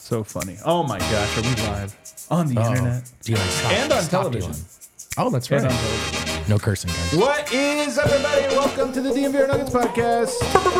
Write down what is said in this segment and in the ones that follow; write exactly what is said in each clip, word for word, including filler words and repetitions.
So funny. Oh my gosh, are we live on the Uh-oh. internet? Dealing, stop, and on stop television? Dealing. Oh, that's And right. on television. No cursing, guys. What is up, everybody? And welcome to the D M V R Nuggets podcast.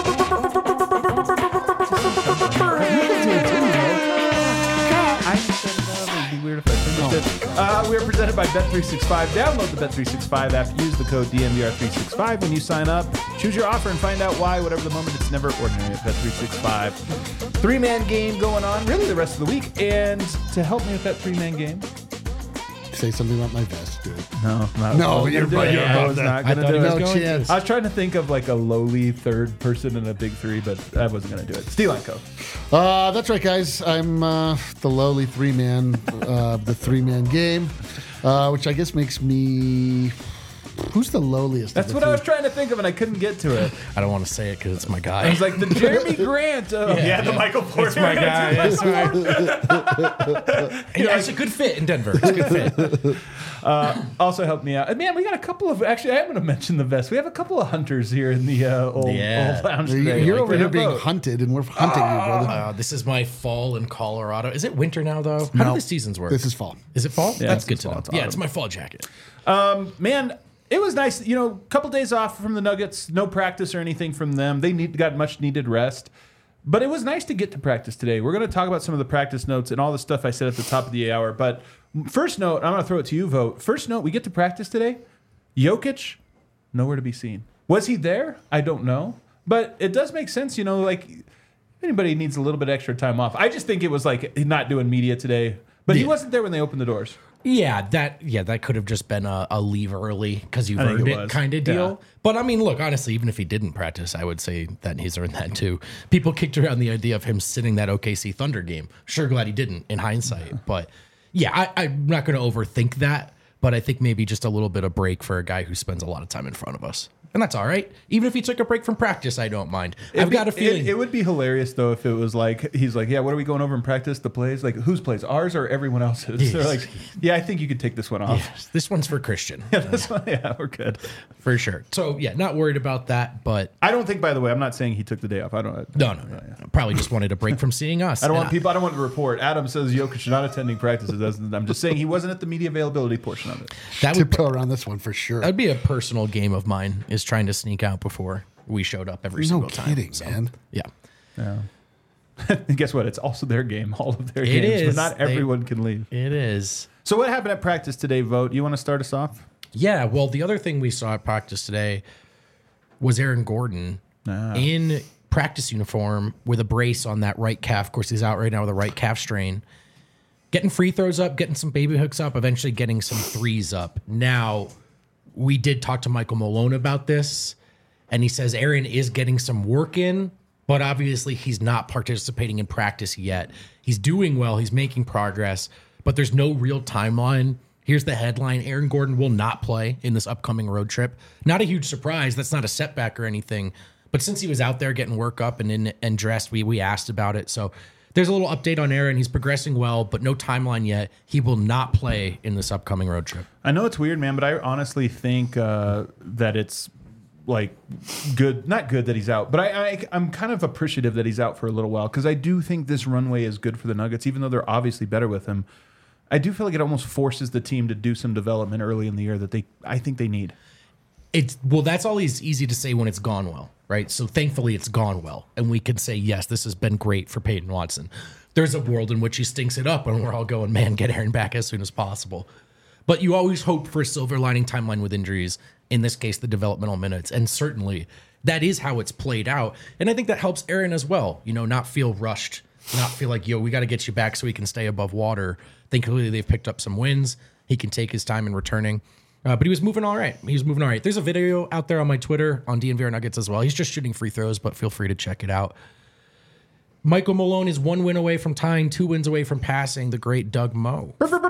I said uh, it'd be weird if I finished it. Uh, we are presented by Bet three sixty-five. Download the Bet three sixty-five app. Use the code D M V R three sixty-five when you sign up. Choose your offer and find out why. Whatever the moment, it's never ordinary at Bet three sixty-five. Three-man game going on really the rest of the week. And to help me with that three-man game, say something about my vest, dude. No, not No, what you're we're doing. right. Yeah, I was not I going to thought do he it. was No going chance. I was trying to think of like a lowly third person in a big three, but I wasn't going to do it. Steel and Co. Uh, that's right, guys. I'm uh, the lowly three-man, uh, the three-man game, uh, which I guess makes me. Who's the lowliest? That's of what the I was three? trying to think of, and I couldn't get to it. I don't want to say it because it's my I guy. was like the Jeremy Grant. Of, yeah, the Michael Porter. It's my guy. That's right. Yeah, it's a good fit in Denver. It's a good fit. Uh, also helped me out. And man, we got a couple of. Actually, I am going to mention the vest. We have a couple of hunters here in the uh, old, Yeah. old lounge You're, today. you're Like, over they here have being both. hunted, and we're hunting you, brother. Uh, this is my fall in Colorado. Is it winter now, though? How No. do the seasons work? This is fall. Is it fall? Yeah, That's it's good to fall. know. It's Yeah, autumn. it's my fall jacket. Um, man, it was nice. You know, a couple days off from the Nuggets, no practice or anything from them. They need got much needed rest. But it was nice to get to practice today. We're going to talk about some of the practice notes and all the stuff I said at the top of the hour. But first note, I'm going to throw it to you, Vote. First note, we get to practice today. Jokic, nowhere to be seen. Was he there? I don't know. But it does make sense, you know, like if anybody needs a little bit extra time off. I just think it was like not doing media today. But he Yeah. wasn't there when they opened the doors. Yeah, that yeah, that could have just been a, a leave early because you've I think earned it it, was. kind of Yeah. deal. But I mean, look, honestly, even if he didn't practice, I would say that he's earned that too. People kicked around the idea of him sitting that O K C Thunder game. Sure, glad he didn't in hindsight. But yeah, I, I'm not going to overthink that. But I think maybe just a little bit of break for a guy who spends a lot of time in front of us. And that's all right. Even if he took a break from practice, I don't mind. I've It'd be- got a feeling. It, it would be hilarious though if it was like he's like, yeah, what are we going over in practice? The plays, like whose plays, ours or everyone else's? Yes. They're like, yeah, I think you could take this one off. Yes, this one's for Christian. Yeah, this one, yeah, we're good. For sure. So yeah, not worried about that. But I don't think, by the way, I'm not saying he took the day off. I don't. no, no, no. Probably just wanted a break from seeing us. I don't And want people. I don't want to report. Adam says Jokic not attending practices. Doesn't- I'm just saying he wasn't at the media availability portion of it. That would Tiptoe around this one for sure. That'd be a personal game of mine, is trying to sneak out before we showed up every no single time. kidding, So, man. Yeah. And guess what? It's also their game. All of their It games, is. but not They- everyone can leave. It is. So what happened at practice today? Vote. You want to start us off? Yeah. Well, the other thing we saw at practice today was Aaron Gordon Ah. in practice uniform with a brace on that right calf. Of course, he's out right now with a right calf strain. Getting free throws up, getting some baby hooks up, eventually getting some threes up. Now, we did talk to Michael Malone about this, and he says Aaron is getting some work in, but obviously he's not participating in practice yet. He's doing well, he's making progress, but there's no real timeline. Here's the headline: Aaron Gordon will not play in this upcoming road trip. Not a huge surprise. That's not a setback or anything. But since he was out there getting work up and in and dressed, we we asked about it. So there's a little update on Aaron. He's progressing well, but no timeline yet. He will not play in this upcoming road trip. I know it's weird, man, but I honestly think uh, that it's like good, not good that he's out, but I, I I'm kind of appreciative that he's out for a little while because I do think this runway is good for the Nuggets, even though they're obviously better with him. I do feel like it almost forces the team to do some development early in the year that they I think they need. It's well, that's always easy to say when it's gone well, right? So thankfully it's gone well, and we can say yes, this has been great for Peyton Watson. There's a world in which he stinks it up, and we're all going, man, get Aaron back as soon as possible. But you always hope for a silver lining timeline with injuries. In this case, the developmental minutes, and certainly that is how it's played out. And I think that helps Aaron as well. You know, not feel rushed, not feel like, yo, we got to get you back so he can stay above water. Thankfully, they've picked up some wins. He can take his time in returning. Uh, but he was moving all right. He was moving all right. There's a video out there on my Twitter on D N V R Nuggets as well. He's just shooting free throws, but feel free to check it out. Michael Malone is one win away from tying, two wins away from passing the great Doug Moe.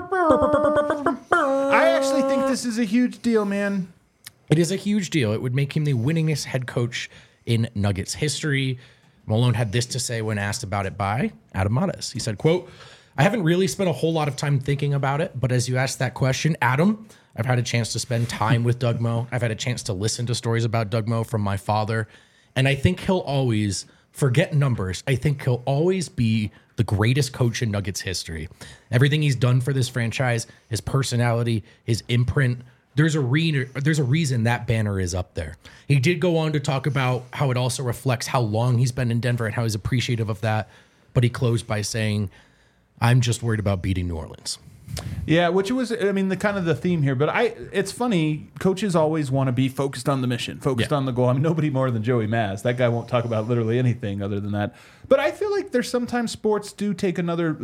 I actually think this is a huge deal, man. It is a huge deal. It would make him the winningest head coach in Nuggets history. Malone had this to say when asked about it by Adam Matas. He said, quote, I haven't really spent a whole lot of time thinking about it, but as you asked that question, Adam, I've had a chance to spend time with Doug Moe. I've had a chance to listen to stories about Doug Moe from my father, and I think he'll always forget numbers. I think he'll always be the greatest coach in Nuggets history. Everything he's done for this franchise, his personality, his imprint, there's a re- there's a reason that banner is up there. He did go on to talk about how it also reflects how long he's been in Denver and how he's appreciative of that. But he closed by saying, I'm just worried about beating New Orleans. Yeah, which was, I mean, the kind of the theme here. But I, it's funny. Coaches always want to be focused on the mission, focused Yeah. on the goal. I mean, nobody more than Joey Maz. That guy won't talk about literally anything other than that. But I feel like there's sometimes sports do take another,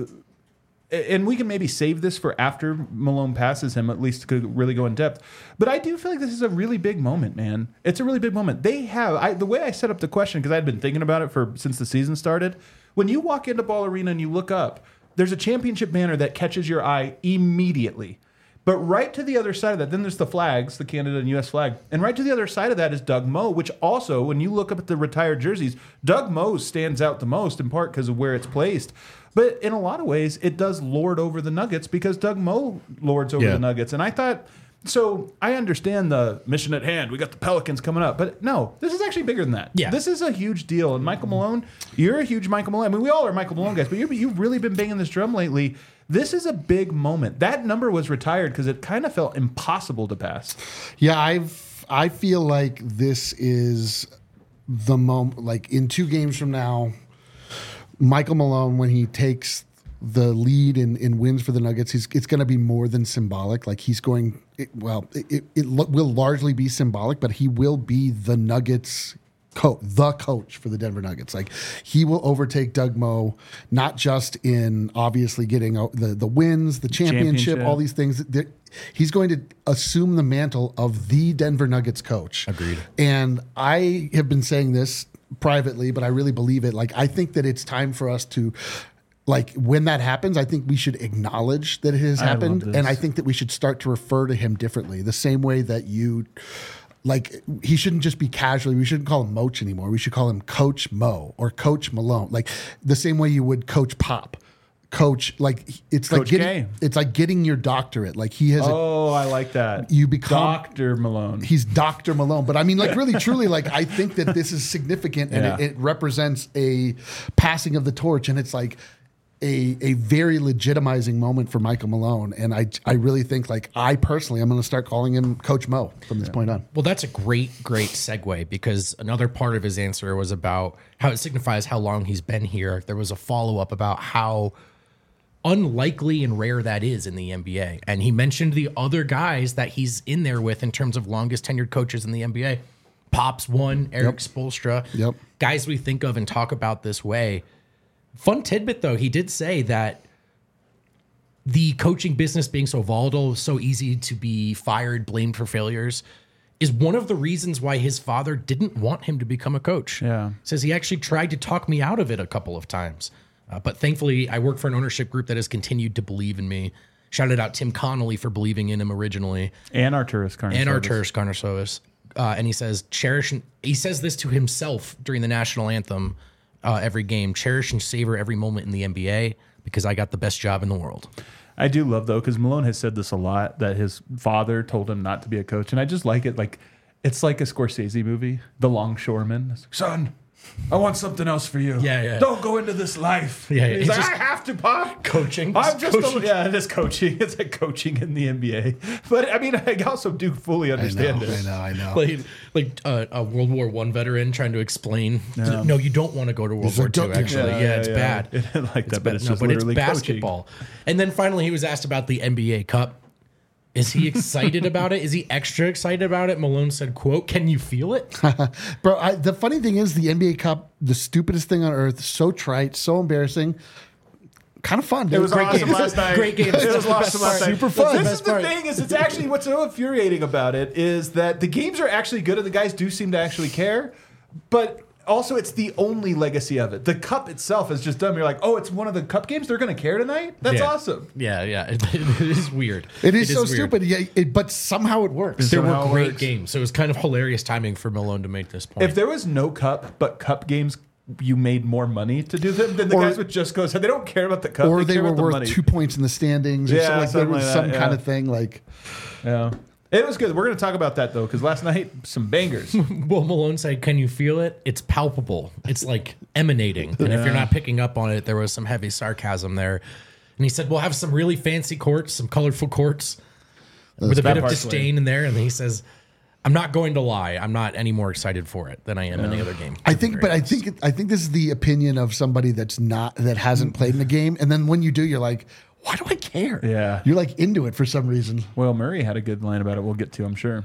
and we can maybe save this for after Malone passes him, at least to really go in depth. But I do feel like this is a really big moment, man. It's a really big moment. They have I, the way I set up the question, because I'd been thinking about it for since the season started. When you walk into Ball Arena and you look up, there's a championship banner that catches your eye immediately. But right to the other side of that, then there's the flags, the Canada and U S flag. And right to the other side of that is Doug Moe, which also, when you look up at the retired jerseys, Doug Moe stands out the most, in part because of where it's placed. But in a lot of ways, it does lord over the Nuggets because Doug Moe lords over Yeah. the Nuggets. And I thought, so I understand the mission at hand. We got the Pelicans coming up. But no, this is actually bigger than that. Yeah. This is a huge deal. And Michael Malone, you're a huge Michael Malone. I mean, we all are Michael Malone guys, but you're, you've really been banging this drum lately. This is a big moment. That number was retired because it kind of felt impossible to pass. Yeah, I've I feel like this is the moment. Like in two games from now, Michael Malone, when he takes the lead and, and wins for the Nuggets, he's, it's going to be more than symbolic. Like he's going, it, well, it, it will largely be symbolic, but he will be the Nuggets coach, the coach for the Denver Nuggets. Like he will overtake Doug Moe, not just in obviously getting the, the wins, the championship, Championship. all these things. He's going to assume the mantle of the Denver Nuggets coach. Agreed. And I have been saying this privately, but I really believe it. Like, I think that it's time for us to, like, when that happens, I think we should acknowledge that it has I love happened. this. And I think that we should start to refer to him differently, the same way that you, like, he shouldn't just be casually, we shouldn't call him Moach anymore. We should call him Coach Mo or Coach Malone, like the same way you would Coach Pop. Coach, like it's like Coach getting, K. it's like getting your doctorate. Like he has a, Oh, I like that. You become- Doctor Malone. he's Doctor Malone. But I mean, like, really, truly, like, I think that this is significant and Yeah. it, it represents a passing of the torch. And it's like a, a very legitimizing moment for Michael Malone. And I, I really think, like, I personally, I'm going to start calling him Coach Mo from this point on. Well, that's a great, great segue because another part of his answer was about how it signifies how long he's been here. There was a follow up about how unlikely and rare that is in the N B A. And he mentioned the other guys that he's in there with in terms of longest tenured coaches in the N B A. Pops one, Eric Spoelstra. Yep. Guys we think of and talk about this way. Fun tidbit, though, he did say that the coaching business being so volatile, so easy to be fired, blamed for failures, is one of the reasons why his father didn't want him to become a coach. Yeah. Says he actually tried to talk me out of it a couple of times. Uh, but thankfully, I work for an ownership group that has continued to believe in me. Shouted out Tim Connolly for believing in him originally. and Arturis Karnisovas. And Arturis Karnisovas. Uh, and he says, cherish, and, he says this to himself during the national anthem uh, every game, cherish and savor every moment in the N B A because I got the best job in the world. I do love, though, because Malone has said this a lot, that his father told him not to be a coach. And I just like it. Like, it's like a Scorsese movie, The Longshoreman. It's like, son, I want something else for you. Yeah, yeah. Don't go into this life. Yeah, yeah. He's It's like, just I have to, Pop. coaching. I'm just, Coaching. A, yeah, it is coaching. It's like coaching in the N B A. But, I mean, I also do fully I know, understand I it. know, I know. Like, like uh, a World War One veteran trying to explain. No, you don't want to go to World He's War like, Two. don't- Actually, Yeah, yeah, yeah, it's yeah. bad. It isn't like that, but bad. it's No, just but it's literally coaching. basketball. And then finally, he was asked about the N B A Cup. Is he excited about it? Is he extra excited about it? Malone said, "quote Can you feel it?" Bro, I, the funny thing is, the N B A Cup, the stupidest thing on earth, so trite, so embarrassing, kind of fun. Dude. It was Great awesome games. last night. Great games. It was That's awesome the best last part. night. Super fun. This Best is the part. thing is, it's actually what's so infuriating about it is that the games are actually good and the guys do seem to actually care, but also it's the only legacy of it. The cup itself is just dumb. You're like, oh, it's one of the cup games. They're going to care tonight. That's Yeah. awesome. Yeah, yeah. It, it is weird. It is so weird. stupid, yeah, it, but somehow it works. There Somehow were it great works. games, so it was kind of hilarious timing for Malone to make this point. If there was no cup, but cup games, you made more money to do them, then the Or- guys would just go. So they don't care about the cup, Or they, they care were about the worth money. two points in the standings, or Yeah, something like there something was like some that, kind yeah. of thing. Like, Yeah. It was good. We're going to talk about that, though, because last night, some bangers. Well, Malone said, can you feel it? It's palpable. It's like emanating. And if you're not picking up on it, there was some heavy sarcasm there. And he said, we'll have some really fancy courts, some colorful courts with a bit of disdain in there. And he says, I'm not going to lie. I'm not any more excited for it than I am any other game. I think, but I think it, I think this is the opinion of somebody that's not that hasn't played in the game, and then when you do, you're like, why do I care? Yeah. You're like into it for some reason. Well, Murray had a good line about it. We'll get to, I'm sure.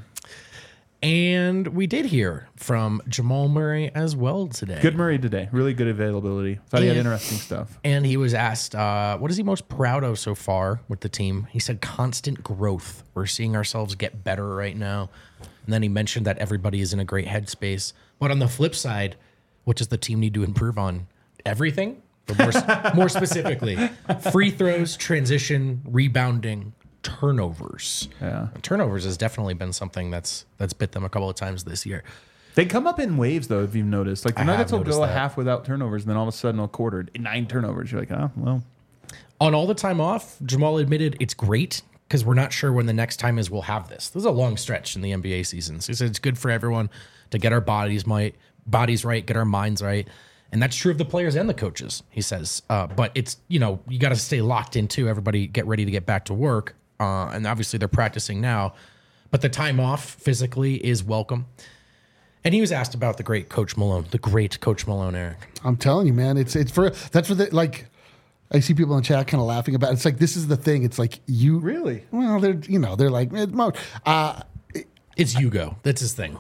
And we did hear from Jamal Murray as well today. Good Murray today. Really good availability. Thought he had And- interesting stuff. And he was asked, uh, what is he most proud of so far with the team? He said, constant growth. We're seeing ourselves get better right now. And then he mentioned that everybody is in a great headspace. But on the flip side, what does the team need to improve on? Everything? But more, more specifically, free throws, transition, rebounding, turnovers. Yeah. Turnovers has definitely been something that's that's bit them a couple of times this year. They come up in waves, though, if you've noticed. Like, the I have Nuggets will noticed go a that. half without turnovers, and then all of a sudden, a quarter, nine turnovers. You're like, oh, well. On all the time off, Jamal admitted it's great because we're not sure when the next time is we'll have this. This is a long stretch in the N B A season. So he said it's good for everyone to get our bodies might bodies right, get our minds right. And that's true of the players and the coaches, he says. Uh, but it's, you know, you got to stay locked into everybody get ready to get back to work. Uh, and obviously they're practicing now. But the time off physically is welcome. And he was asked about the great Coach Malone, the great Coach Malone, Eric. I'm telling you, man, it's it's for that's for the like. I see people in the chat kind of laughing about it. It's like this is the thing. It's like you Really? well, they're you know they're like eh, Mo. Uh, It's Hugo. That's his thing.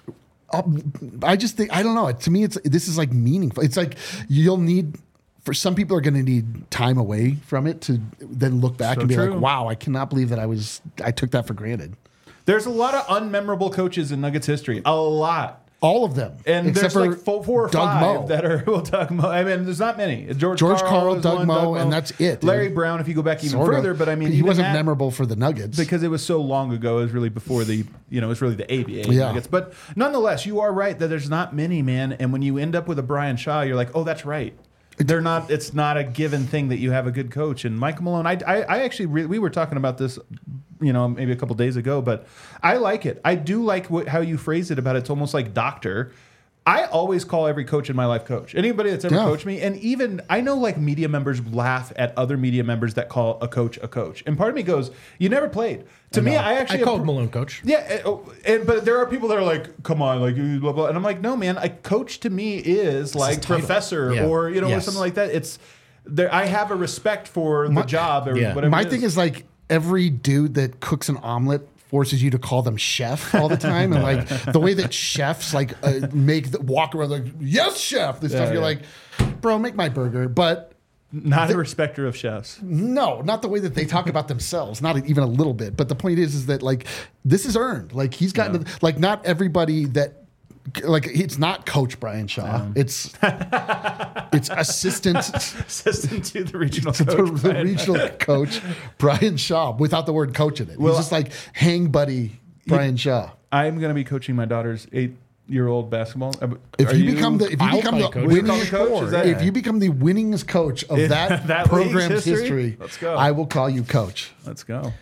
I just think I don't know. To me, it's this is like meaningful. It's like you'll need for some people are going to need time away from it to then look back So and be true. like, wow, I cannot believe that I was I took that for granted. There's a lot of unmemorable coaches in Nuggets history. A lot. All of them, And except there's for like four, four or Doug five Moe. that are, well, Doug Moe. I mean, there's not many. George, George Karl, Karl, was Doug one, Moe, and that's it, dude. Larry Brown, if you go back even Sort of. further, but I mean, he even wasn't that- memorable for the Nuggets. because it was so long ago. It was really before the, you know, it was really the A B A Yeah. Nuggets. But nonetheless, you are right that there's not many, man. And when you end up with a Brian Shaw, you're like, oh, that's right. They're not. It's not a given thing that you have a good coach. And Michael Malone, I, I, I actually, re- we were talking about this, you know, maybe a couple days ago, but I like it. I do like what, how you phrase it about it's almost like doctor. I always call every coach in my life coach. Anybody that's ever Yeah. coached me, and even I know like media members laugh at other media members that call a coach a coach, and part of me goes, "You never played." To me, I actually I called appro- Malone coach. Yeah, and, oh, and but there are people that are like, "Come on," like blah blah, and I'm like, "No, man. A coach to me is like his title. professor Yeah. or you know or Yes. something like that." It's there. I have a respect for the job or yeah. whatever. My it thing is like every dude that cooks an omelet forces you to call them chef all the time, and like the way that chefs like uh, make the, walk around like yes chef this stuff. Yeah, You're yeah. like, bro, make my burger, but not a respecter of chefs. no, not the way that they talk about themselves, not even a little bit. But the point is, is that like this is earned. Like he's gotten to, like not everybody that. Like it's not Coach Brian Shaw. It's it's assistant Assistant to the regional to the, coach. the Brian. regional coach Brian Shaw without the word coach in it. Well, He's just like hang buddy Brian Shaw. I'm going to be coaching my daughter's eight-year-old basketball. Uh, If are you, become the if you I'll become play the coach. Would you winning call me coach? Is that- if you become the winningest coach of that, that program's league's history? history, Let's go. I will call you coach. Let's go.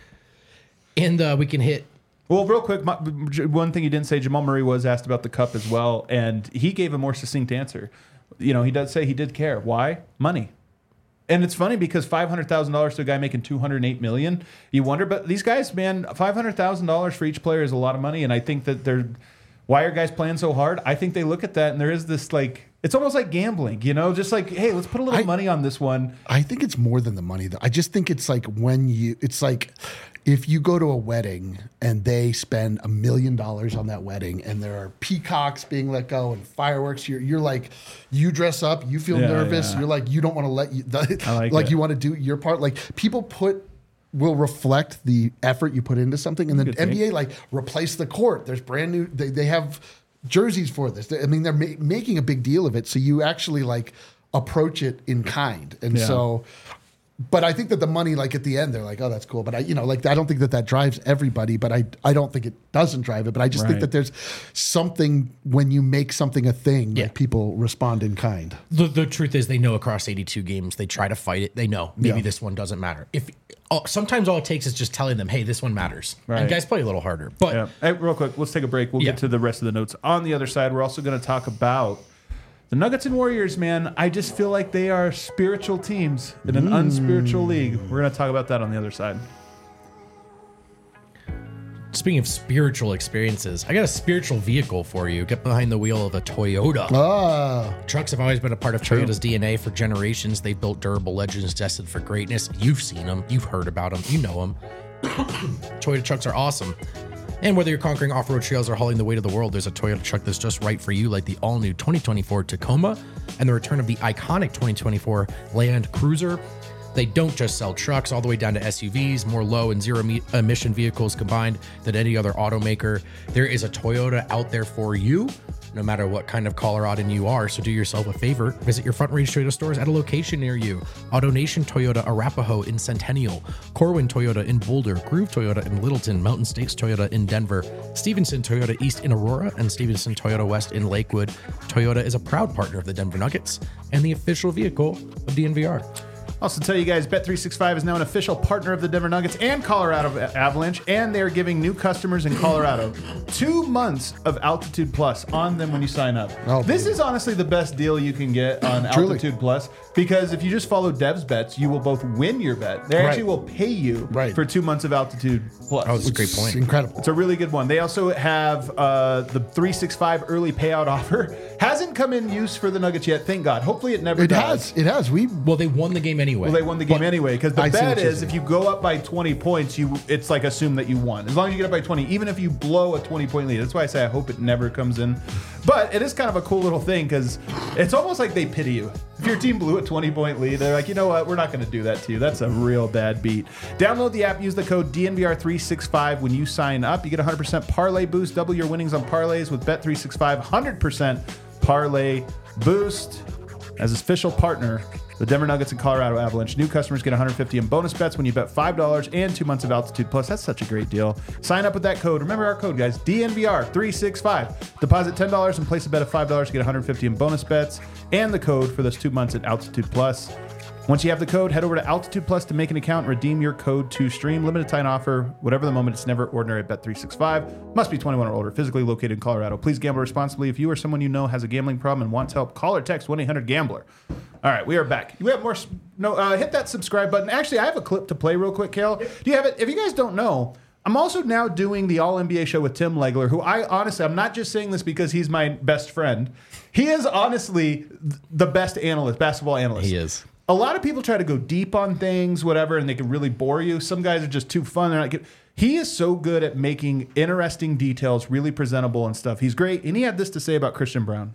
And uh, we can hit. Well, real quick, my, one thing you didn't say, Jamal Murray was asked about the cup as well, and he gave a more succinct answer. You know, he does say he did care. Why? Money. And it's funny because five hundred thousand dollars to a guy making two hundred eight million dollars, you wonder, but these guys, man, five hundred thousand dollars for each player is a lot of money, and I think that they're, why are guys playing so hard? I think they look at that, and there is this, like, it's almost like gambling, you know, just like, hey, let's put a little I- money on this one. I think it's more than the money though. I just think it's like when you it's like if you go to a wedding and they spend a million dollars on that wedding and there are peacocks being let go and fireworks, you're you're like you dress up, you feel Yeah, nervous, yeah. you're like you don't want to let you I like like it. you want to do your part. Like people put will reflect the effort you put into something, and then Good N B A take. like replace the court. There's brand new. They they have jerseys for this. They- I mean, they're ma- making a big deal of it, so you actually like approach it in kind, and Yeah. so. But I think that the money, like at the end, they're like, "Oh, that's cool." But I, you know, like I don't think that that drives everybody. But I, I don't think it doesn't drive it. But I just think Right. that there's something when you make something a thing, Yeah. like people respond in kind. The, the truth is, they know across eighty-two games, they try to fight it. They know maybe Yeah. this one doesn't matter. If all, sometimes all it takes is just telling them, hey, this one matters. Right. And guys play a little harder. But Yeah. Hey, real quick, let's take a break. We'll Yeah. get to the rest of the notes. On the other side, we're also going to talk about the Nuggets and Warriors, man. I just feel like they are spiritual teams in an unspiritual league. We're going to talk about that on the other side. speaking of spiritual experiences, I got a spiritual vehicle for you. Get behind the wheel of a Toyota. Ah, Trucks have always been a part of Toyota's D N A for generations. They've built durable legends destined for greatness. You've seen them. You've heard about them. You know them. Toyota trucks are awesome. And whether you're conquering off-road trails or hauling the weight of the world, there's a Toyota truck that's just right for you, like the all-new twenty twenty-four Tacoma and the return of the iconic twenty twenty-four Land Cruiser. They don't just sell trucks, all the way down to S U Vs, more low and zero me- emission vehicles combined than any other automaker. There is a Toyota out there for you, no matter what kind of Coloradan you are. So do yourself a favor, visit your Front Range Toyota stores at a location near you. AutoNation Toyota Arapahoe in Centennial, Corwin Toyota in Boulder, Groove Toyota in Littleton, Mountain States Toyota in Denver, Stevenson Toyota East in Aurora, and Stevenson Toyota West in Lakewood. Toyota is a proud partner of the Denver Nuggets and the official vehicle of D N V R. Also tell you guys, Bet three sixty-five is now an official partner of the Denver Nuggets and Colorado Avalanche, and they're giving new customers in Colorado two months of Altitude Plus on them when you sign up. Oh, this baby. is honestly the best deal you can get on Truly. Altitude Plus, because if you just follow Dev's bets, you will both win your bet. They actually Right. will pay you Right. for two months of Altitude Plus. Oh, that's a great It's point. incredible. It's a really good one. They also have uh, the three sixty-five early payout offer. Hasn't come in use for the Nuggets yet, thank God. Hopefully it never It does. has. It has. We Well, they won the game anyway. Well, they won the game anyway, because the I see bet what you're is if saying. you go up by twenty points, you it's like assume that you won. As long as you get up by twenty, even if you blow a twenty point lead. That's why I say I hope it never comes in. But it is kind of a cool little thing, because it's almost like they pity you. If your team blew a twenty point lead, they're like, you know what, we're not going to do that to you. That's a real bad beat. Download the app, use the code D N V R three sixty-five when you sign up. You get one hundred percent parlay boost, double your winnings on parlays with Bet three sixty-five, one hundred percent parlay boost. As official partner, the Denver Nuggets and Colorado Avalanche. New customers get one hundred fifty in bonus bets when you bet five dollars and two months of Altitude Plus. That's such a great deal. Sign up with that code. Remember our code, guys, D N V R three sixty-five. Deposit ten dollars and place a bet of five dollars to get one hundred fifty in bonus bets and the code for those two months at Altitude Plus. Once you have the code, head over to Altitude Plus to make an account and redeem your code to stream. Limited time offer, whatever the moment. It's never ordinary at Bet three sixty-five. Must be twenty-one or older, physically located in Colorado. Please gamble responsibly. If you or someone you know has a gambling problem and wants help, call or text one eight hundred gambler. All right, we are back. We have more. No, uh, hit that subscribe button. Actually, I have a clip to play real quick, Kale. Do you have it? If you guys don't know, I'm also now doing the All N B A show with Tim Legler, who I honestly, I'm not just saying this because he's my best friend. He is honestly the best analyst, basketball analyst. He is. A lot of people try to go deep on things, whatever, and they can really bore you. Some guys are just too fun. They're not good. He is so good at making interesting details really presentable and stuff. He's great. And he had this to say about Christian Brown.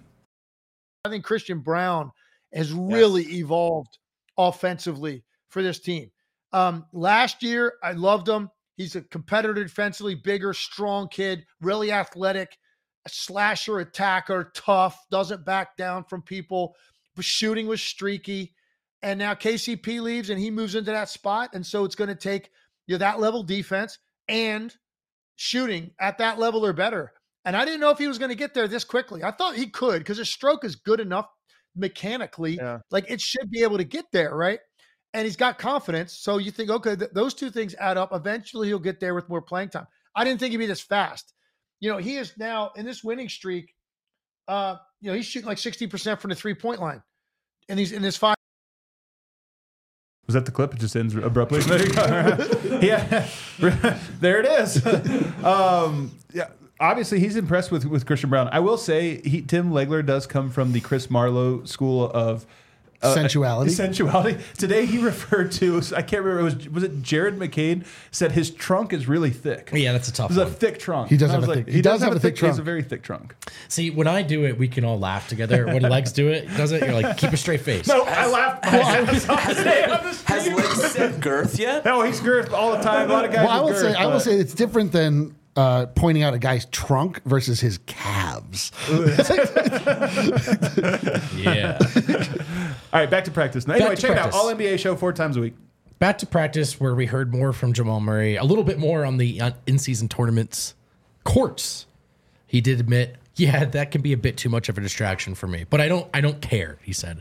I think Christian Brown has really evolved offensively for this team. Um, last year, I loved him. He's a competitor defensively, bigger, strong kid, really athletic, a slasher, attacker, tough, doesn't back down from people. But shooting was streaky. And now K C P leaves and he moves into that spot. And so it's going to take you know, that level defense and shooting at that level or better. And I didn't know if he was going to get there this quickly. I thought he could because his stroke is good enough mechanically. Yeah. Like it should be able to get there, right? And he's got confidence. So you think, okay, th- those two things add up. Eventually he'll get there with more playing time. I didn't think he'd be this fast. You know, he is now in this winning streak. Uh, you know, he's shooting like sixty percent from the three-point line. And he's in this five. Was that the clip? It just ends abruptly. There you go. Yeah, there it is. Um, yeah, obviously he's impressed with, with Christian Brown. I will say he, Tim Legler does come from the Chris Marlowe school of uh, Sensuality. Sensuality. Today he referred to, I can't remember, it was was it Jared McCain said his trunk is really thick. Yeah, that's a tough It's a one. thick trunk. He does And I have was a like, thick- He does have a thick. He has trunk. a very thick trunk. See, when I do it, we can all laugh together. When Legs do it, does it? You're like, keep a straight face. No, I laughed. Has, today on the has stream. Legs said girth yet? No, he's girth all the time. A lot of guys. well, I with will say girth, I will but- say it's different than uh, pointing out a guy's trunk versus his calves. Yeah. All right, back to practice. Now, anyway, Back to check it out. practice. All N B A show four times a week. Back to practice where we heard more from Jamal Murray, a little bit more on the uh, in-season tournaments courts. He did admit, yeah, that can be a bit too much of a distraction for me, but I don't I don't care, he said.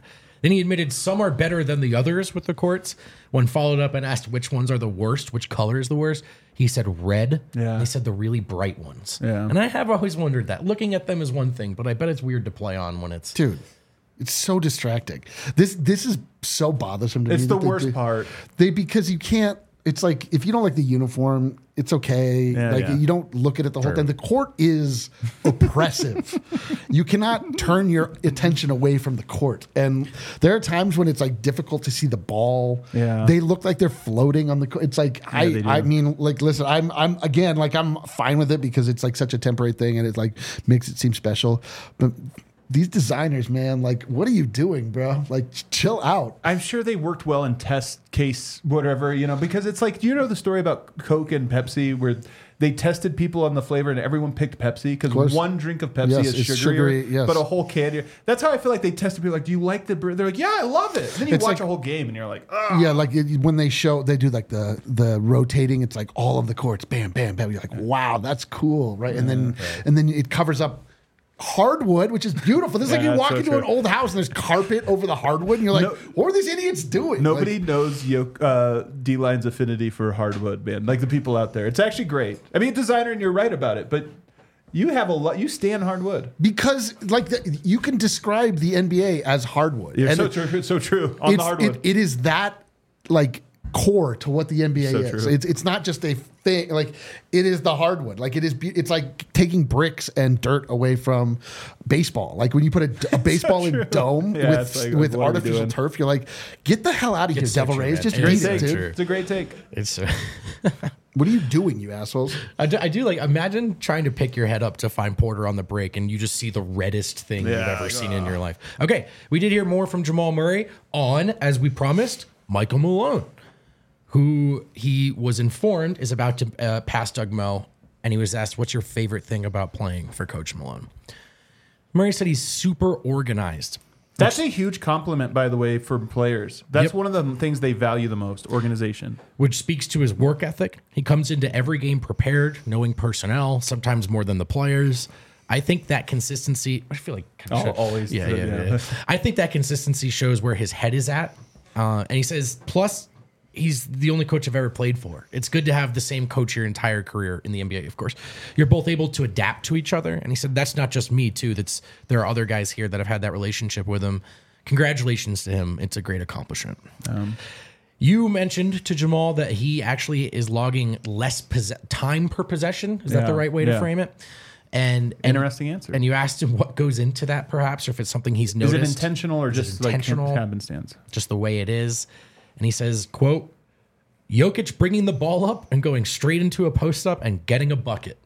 Then he admitted some are better than the others with the courts. When followed up and asked which ones are the worst, which color is the worst, he said red. Yeah. And he said the really bright ones. Yeah. And I have always wondered that. Looking at them is one thing, but I bet it's weird to play on when it's... Dude, it's so distracting. This this is so bothersome to me. It's the that they worst do- part. They because you can't. It's like if you don't like the uniform, it's okay. Yeah, like yeah. you don't look at it the whole time. The court is oppressive. You cannot turn your attention away from the court. And there are times when it's like difficult to see the ball. Yeah. They look like they're floating on the court. It's like they I do. I mean, like listen, I'm I'm again like I'm fine with it because it's like such a temporary thing and it like makes it seem special. But these designers, man, like, what are you doing, bro? Like, chill out. I'm sure they worked well in test case, whatever, you know, because it's like, do you know the story about Coke and Pepsi where they tested people on the flavor and everyone picked Pepsi because course. one drink of Pepsi Yes, is it's sugarier, sugary, yes. but a whole can. That's how I feel like they tested people. Like, do you like the beer? They're like, yeah, I love it. Then you It's watch like- a whole game and you're like, oh. Yeah, like it, when they show, they do like the the rotating. It's like all of the courts, bam, bam, bam. You're like, wow, that's cool, right? And then and then it covers up hardwood, which is beautiful. This is like Yeah, you walk so into true. an old house and there's carpet over the hardwood, and you're like, No- what are these idiots doing? Nobody Like, knows Yoke, uh, D-Line's affinity for hardwood, man. Like the people out there. It's actually great. I mean, designer, and you're right about it, but you have a lot. You stand hardwood. because like the, you can describe the N B A as hardwood. You're And so it- true. So true. On the it's- hardwood. It, it is that like core to what the N B A So is. true. It's it's not just a thing. Like it is the hardwood. Like it is. be- It's like taking bricks and dirt away from baseball. Like when you put a, a baseball in true. dome Yeah, with it's like, with what are we artificial doing? turf, you're like, get the hell out of here, It's so Devil true, Rays. man. Just It beat is it, so dude. true. It's a great take. It's... uh, What are you doing, you assholes? I do, I do like imagine trying to pick your head up to find Porter on the break and you just see the reddest thing you've Yeah, ever like, seen in your life. Okay, we did hear more from Jamal Murray on, as we promised, Michael Malone, who he was informed is about to uh, pass Doug Moe, and he was asked, "What's your favorite thing about playing for Coach Malone?" Murray said he's super organized. That's a huge compliment, by the way, for players. That's Yep. one of the things they value the most, organization. Which speaks to his work ethic. He comes into every game prepared, knowing personnel, sometimes more than the players. I think that consistency, I feel like kind Oh, of always. Yeah, yeah, Yeah. yeah. I think that consistency shows where his head is at. Uh, and he says, plus, he's the only coach I've ever played for. It's good to have the same coach your entire career in the N B A, of course. You're both able to adapt to each other. And he said, that's not just me, too. That's there are other guys here that have had that relationship with him. Congratulations to him. It's a great accomplishment. Um, You mentioned to Jamal that he actually is logging less pos- time per possession. Is that Yeah, the right way to yeah. frame it? And, and Interesting answer. And you asked him what goes into that, perhaps, or if it's something he's Is noticed. it intentional or Is it just intentional? like happenstance? Just the way it is. And he says, quote, Jokic bringing the ball up and going straight into a post up and getting a bucket.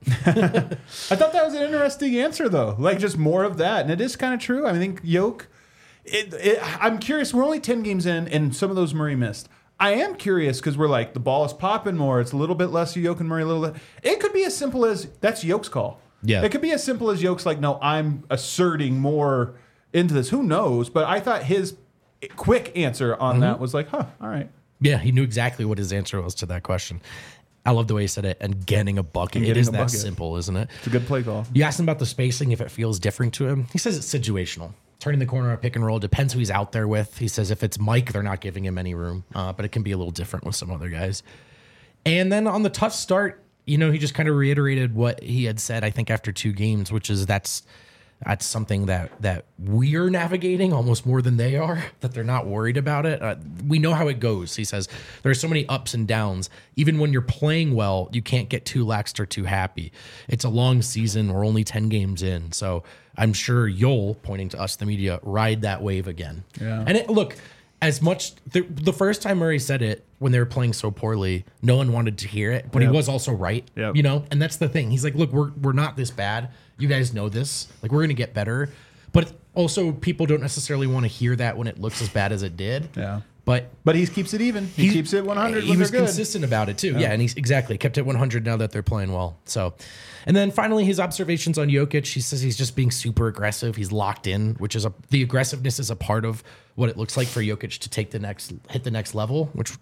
I thought that was an interesting answer, though. Like just more of that, and it is kind of true. I think Yoke. It, it, I'm curious. We're only ten games in, and some of those Murray missed. I am curious because we're like the ball is popping more. It's a little bit less Yoke and Murray. A little bit. It could be as simple as that's Yoke's call. Yeah. It could be as simple as Yoke's like, no, I'm asserting more into this. Who knows? But I thought his quick answer on Mm-hmm. that was like, huh, all right. Yeah, he knew exactly what his answer was to that question. I love the way he said it. And getting a bucket. And It getting is a that bucket. simple, isn't it? It's a good play call. You asked him about the spacing, if it feels different to him. He says it's situational. Turning the corner on a pick and roll depends who he's out there with. He says if it's Mike, they're not giving him any room, uh, but it can be a little different with some other guys. And then on the tough start, you know, he just kind of reiterated what he had said, I think, after two games, which is that's that's something that that we're navigating almost more than they are, that they're not worried about it. Uh, we know how it goes. He says there are so many ups and downs. Even when you're playing well, you can't get too laxed or too happy. It's a long season. We're only ten games in. So I'm sure you'll, pointing to us, the media, ride that wave again. Yeah. And it, look, as much the, the first time Murray said it when they were playing so poorly, no one wanted to hear it, but Yep. he was also right. Yep. You know, and that's the thing. He's like, look, we're we're not this bad. You guys know this. Like, we're gonna get better. But also, people don't necessarily want to hear that when it looks as bad as it did. Yeah. But But he keeps it even. He, keeps it one hundred He when was they're good. consistent about it too. Yeah, and he's exactly kept it one hundred now that they're playing well. So, and then finally his observations on Jokic. He says he's just being super aggressive. He's locked in, which is a the aggressiveness is a part of what it looks like for Jokic to take the next hit the next level. Which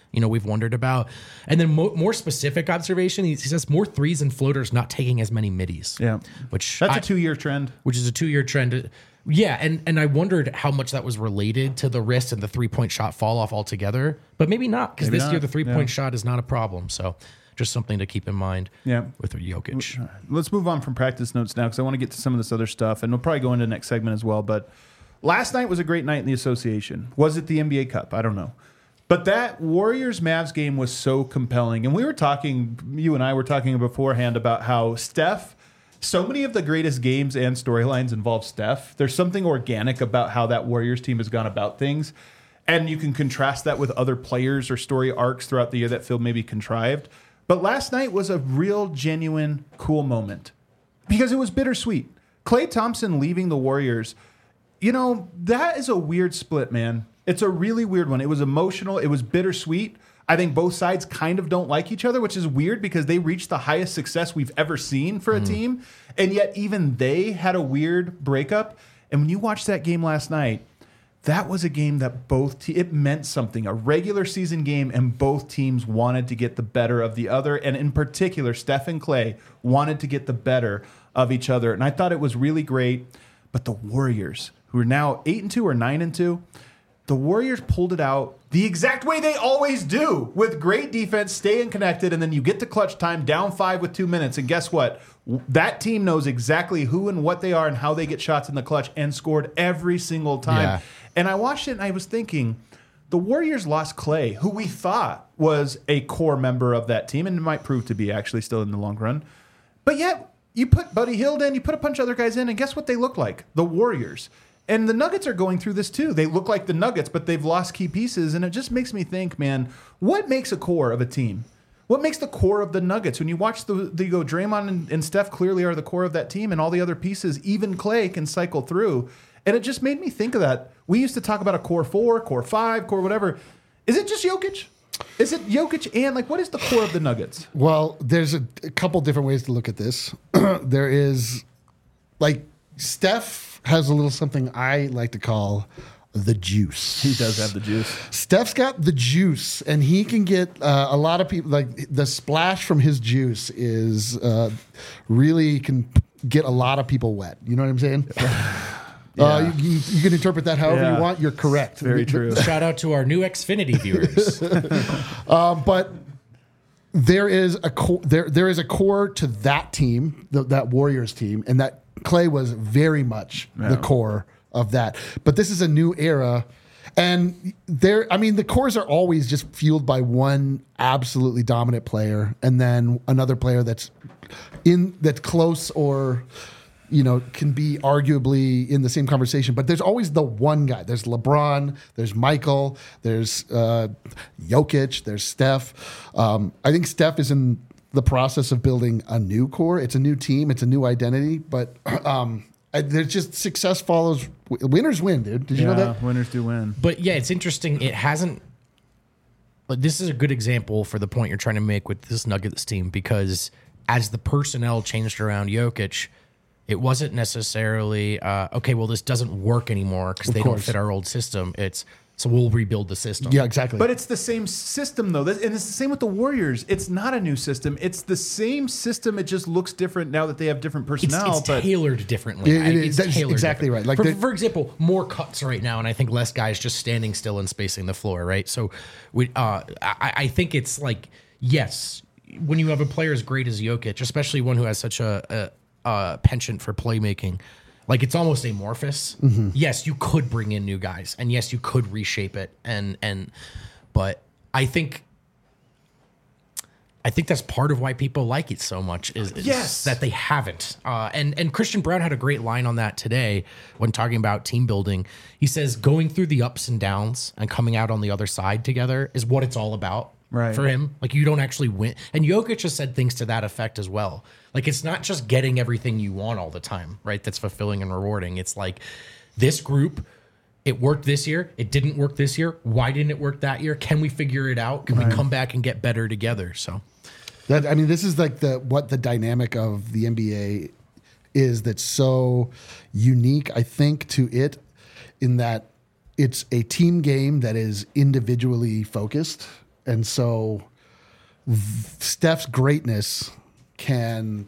you know, we've wondered about. And then mo- more specific observation, he, he says more threes and floaters, not taking as many middies. Yeah. Which That's I- a two-year trend. which is a two-year trend. Yeah, and and I wondered how much that was related to the wrist and the three-point shot fall off altogether, but maybe not, because Maybe this not, year the three-point yeah. shot is not a problem. So just something to keep in mind. Yeah. With Jokic. Let's move on from practice notes now, because I want to get to some of this other stuff, and we'll probably go into the next segment as well. But last night was a great night in the association. Was it the N B A Cup? I don't know. But that Warriors-Mavs game was so compelling. And we were talking, you and I were talking beforehand about how Steph, so many of the greatest games and storylines involve Steph. There's something organic about how that Warriors team has gone about things. And you can contrast that with other players or story arcs throughout the year that feel maybe contrived. But last night was a real, genuine, cool moment because it was bittersweet. Klay Thompson leaving the Warriors, you know, that is a weird split, man. It's a really weird one. It was emotional. It was bittersweet. I think both sides kind of don't like each other, which is weird because they reached the highest success we've ever seen for a team. And yet even they had a weird breakup. And when you watched that game last night, that was a game that both te- it meant something, a regular season game, and both teams wanted to get the better of the other. And in particular, Steph and Klay wanted to get the better of each other. And I thought it was really great. But the Warriors, who are now eight and two or nine and two, the Warriors pulled it out the exact way they always do, with great defense, staying connected, and then you get to clutch time down five with two minutes. And guess what? That team knows exactly who and what they are and how they get shots in the clutch, and scored every single time. Yeah. And I watched it and I was thinking, the Warriors lost Klay, who we thought was a core member of that team, and it might prove to be actually still in the long run. But yet, you put Buddy Hield in, you put a bunch of other guys in, and guess what they look like? The Warriors. And the Nuggets are going through this too. They look like the Nuggets, but they've lost key pieces. And it just makes me think, man, what makes a core of a team? What makes the core of the Nuggets? When you watch the, the you go, Draymond and, and Steph clearly are the core of that team, and all the other pieces, even Klay, can cycle through. And it just made me think of that. We used to talk about a core four, core five, core whatever. Is it just Jokic? Is it Jokic and, like, what is the core of the Nuggets? Well, there's a, a couple different ways to look at this. There is, like, Steph has a little something I like to call the juice. He does have the juice. Steph's got the juice, and he can get uh, a lot of people, like, the splash from his juice is uh, really can get a lot of people wet. You know what I'm saying? Yeah. Uh, you, you, you can interpret that however Yeah. you want. You're correct. Very true. Shout out to our new Xfinity viewers. Um, but there is a core, there there is a core to that team, the, that Warriors team, and that Klay was very much the core of that. But this is a new era, and there, I mean, the cores are always just fueled by one absolutely dominant player, and then another player that's in that's close or, you know, can be arguably in the same conversation, but there's always the one guy. There's LeBron, there's Michael, there's uh, Jokic, there's Steph. Um, I think Steph is in the process of building a new core. It's a new team, it's a new identity, but um, I, there's just success follows. Winners win, dude. Did you know that? Winners do win. But yeah, it's interesting. It hasn't. But this is a good example for the point you're trying to make with this Nuggets team, because as the personnel changed around Jokic, it wasn't necessarily uh, okay. Well, this doesn't work anymore because they don't course. fit our old system. It's so we'll rebuild the system. Yeah, exactly. But it's the same system, though. And it's the same with the Warriors. It's not a new system. It's the same system. It just looks different now that they have different It's, personnel. it's but tailored differently. It- it I- is. it's That's tailored exactly different. right. Like for, the- for example, more cuts right now, and I think less guys just standing still and spacing the floor. Right. So we, uh, I, I think it's like, yes, when you have a player as great as Jokic, especially one who has such a, a, a penchant for playmaking, like it's almost amorphous. Mm-hmm. Yes, you could bring in new guys, and yes, you could reshape it, and and, but I think. I think that's part of why people like it so much is, is Yes. that they haven't. Uh, and and Christian Brown had a great line on that today when talking about team building. He says going through the ups and downs and coming out on the other side together is what it's all about Right. for him. Like you don't actually win. And Jokic has said things to that effect as well. Like it's not just getting everything you want all the time, right? That's fulfilling and rewarding. It's like this group, it worked this year. It didn't work this year. Why didn't it work that year? Can we figure it out? Can we come back and get better together? So That, I mean, this is like the what the dynamic of the N B A is that's so unique, I think, to it, in that it's a team game that is individually focused, And so th- Steph's greatness can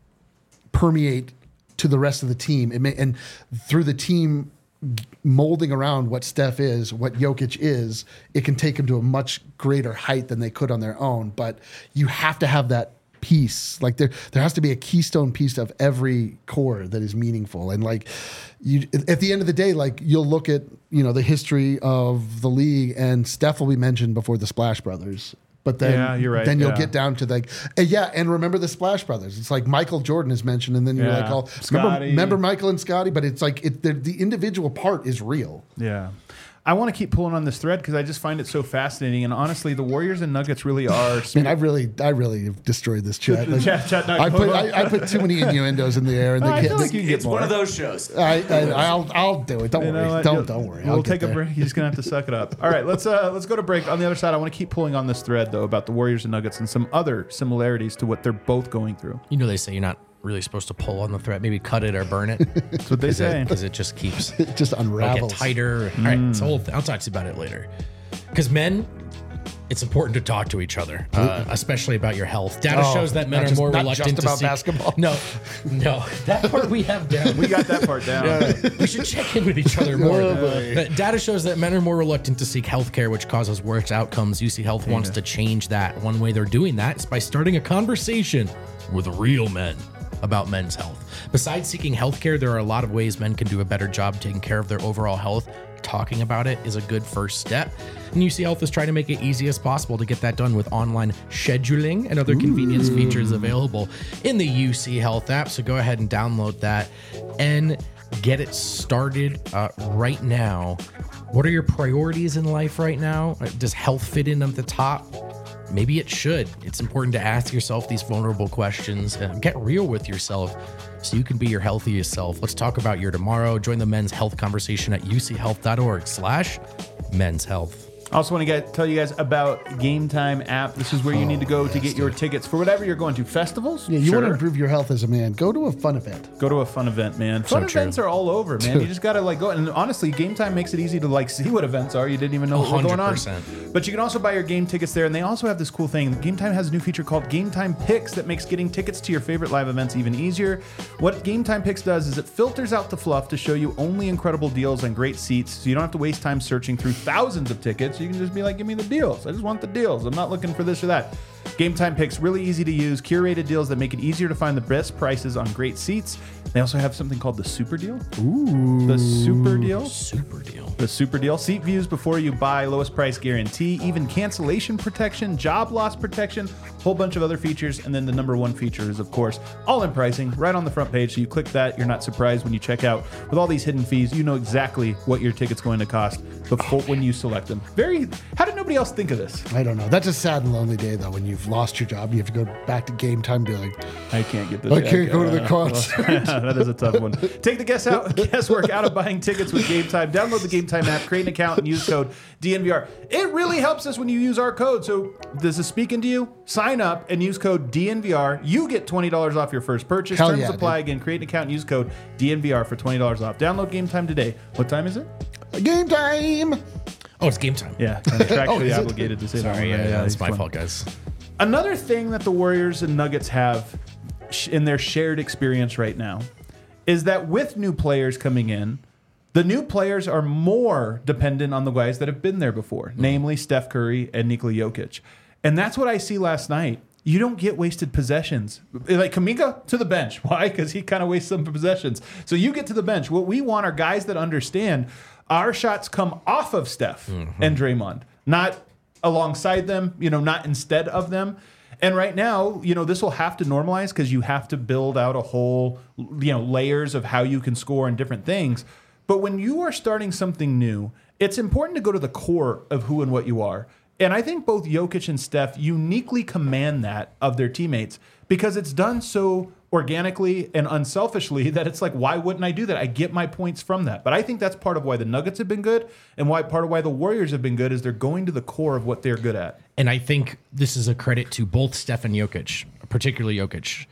permeate to the rest of the team. It may, and through the team molding around what Steph is, what Jokic is, it can take him to a much greater height than they could on their own. But you have to have that piece. Like there, there has to be a keystone piece of every core that is meaningful. And like you, at the end of the day, like you'll look at, you know, the history of the league and Steph will be mentioned before the Splash Brothers. But then, Yeah, you're right, then you'll yeah. get down to like, and yeah, and remember the Splash Brothers. It's like Michael Jordan is mentioned, and then you're Yeah. like, oh, remember, Scotty. remember Michael and Scotty? But it's like it, the, the individual part is real. Yeah. I want to keep pulling on this thread because I just find it so fascinating. And honestly, the Warriors and Nuggets really are. Man, I really, I really have destroyed this chat. The chat- chat not I put, going I, I put too many innuendos in the air, and they I can't. feel they- like you can get It's more. one of those shows. I, I, I'll, I'll do it. Don't You know worry. what? Don't, You'll- don't worry. We'll I'll take get a there. break. You're just gonna have to suck it up. All right, let's uh, let's go to break. On the other side, I want to keep pulling on this thread though about the Warriors and Nuggets and some other similarities to what they're both going through. You know, they say you're not really supposed to pull on the thread. Maybe cut it or burn it. That's what they say. Because it just keeps It just it'll unravels. get tighter. All right, it's a whole thing. I'll talk to you about it later. Because men, it's important to talk to each other, uh, especially about your health. Data Oh, shows that men not are just- more not reluctant just to about seek. basketball. No, no, that part we have down. We got that part down. We should check in with each other more. Oh, boy. But data shows that men are more reluctant to seek health care, which causes worse outcomes. U C Health wants to change that. One way they're doing that is by starting a conversation with real men about men's health. Besides seeking health care, there are a lot of ways men can do a better job taking care of their overall health. Talking about it is a good first step. And U C Health is trying to make it easy as possible to get that done with online scheduling and other convenience features available in the U C Health app. So go ahead and download that and get it started uh, right now. What are your priorities in life right now? Does health fit in at the top? Maybe it should. It's important to ask yourself these vulnerable questions and get real with yourself so you can be your healthiest self. Let's talk about your tomorrow. Join the men's health conversation at uchealth.org slash men's health. I also want to get, tell you guys about Game Time app. This is where you need to go to get your tickets for whatever you're going to. Festivals? Yeah, you Sure. want to improve your health as a man. Go to a fun event. Go to a fun event, man. Fun true. events are all over, man. You just gotta like go. And honestly, Game Time makes it easy to like see what events are. You didn't even know what was going on. one hundred percent. But you can also buy your game tickets there, and they also have this cool thing. Game Time has a new feature called Game Time Picks that makes getting tickets to your favorite live events even easier. What Game Time Picks does is it filters out the fluff to show you only incredible deals and great seats, so you don't have to waste time searching through thousands of tickets. You can just be like, give me the deals. I just want the deals. I'm not looking for this or that. Game Time Picks, really easy to use, curated deals that make it easier to find the best prices on great seats. They also have something called the Super Deal. Ooh. The Super Deal. Super deal. The Super Deal. Seat views before you buy, lowest price guarantee, even cancellation protection, job loss protection, whole bunch of other features. And then the number one feature is, of course, all-in pricing right on the front page. So you click that, you're not surprised when you check out. With all these hidden fees, you know exactly what your ticket's going to cost before when you select them. Very. How did nobody else think of this? I don't know. That's a sad and lonely day, though, when you've lost your job. You have to go back to Game Time and be like, I can't get this. I can't go to the Uh, concert. that is a tough one. Take the guess out, guesswork out of buying tickets with Game Time. Download the Game Time app, create an account, and use code D N V R. It really helps us when you use our code. So this is speaking to you. Sign up and use code D N V R. You get twenty dollars off your first purchase. Hell Terms yeah, apply. dude. Again, create an account and use code D N V R for twenty dollars off. Download Game Time today. What time is it? Game Time. Oh, it's game time. Yeah, contractually Oh, is it? obligated to say that. Sorry, one, yeah, right? yeah, it's it's my fun. fault, guys. Another thing that the Warriors and Nuggets have sh- in their shared experience right now is that with new players coming in, the new players are more dependent on the guys that have been there before, Mm-hmm. namely Steph Curry and Nikola Jokic. And that's what I see last night. You don't get wasted possessions. Like Kuminga to the bench. Why? Because he kind of wastes some possessions. So you get to the bench. What we want are guys that understand our shots come off of Steph Mm-hmm. and Draymond, not alongside them, you know, not instead of them. And right now, you know, this will have to normalize because you have to build out a whole, you know, layers of how you can score and different things. But when you are starting something new, it's important to go to the core of who and what you are. And I think both Jokic and Steph uniquely command that of their teammates because it's done so organically and unselfishly that it's like, why wouldn't I do that? I get my points from that. But I think that's part of why the Nuggets have been good and why part of why the Warriors have been good is they're going to the core of what they're good at. And I think this is a credit to both Steph and Jokic, particularly Jokic.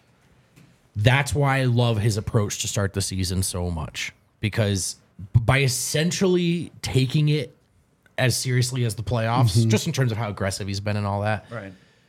That's why I love his approach to start the season so much. Because by essentially taking it as seriously as the playoffs, mm-hmm. just in terms of how aggressive he's been and all that. Right.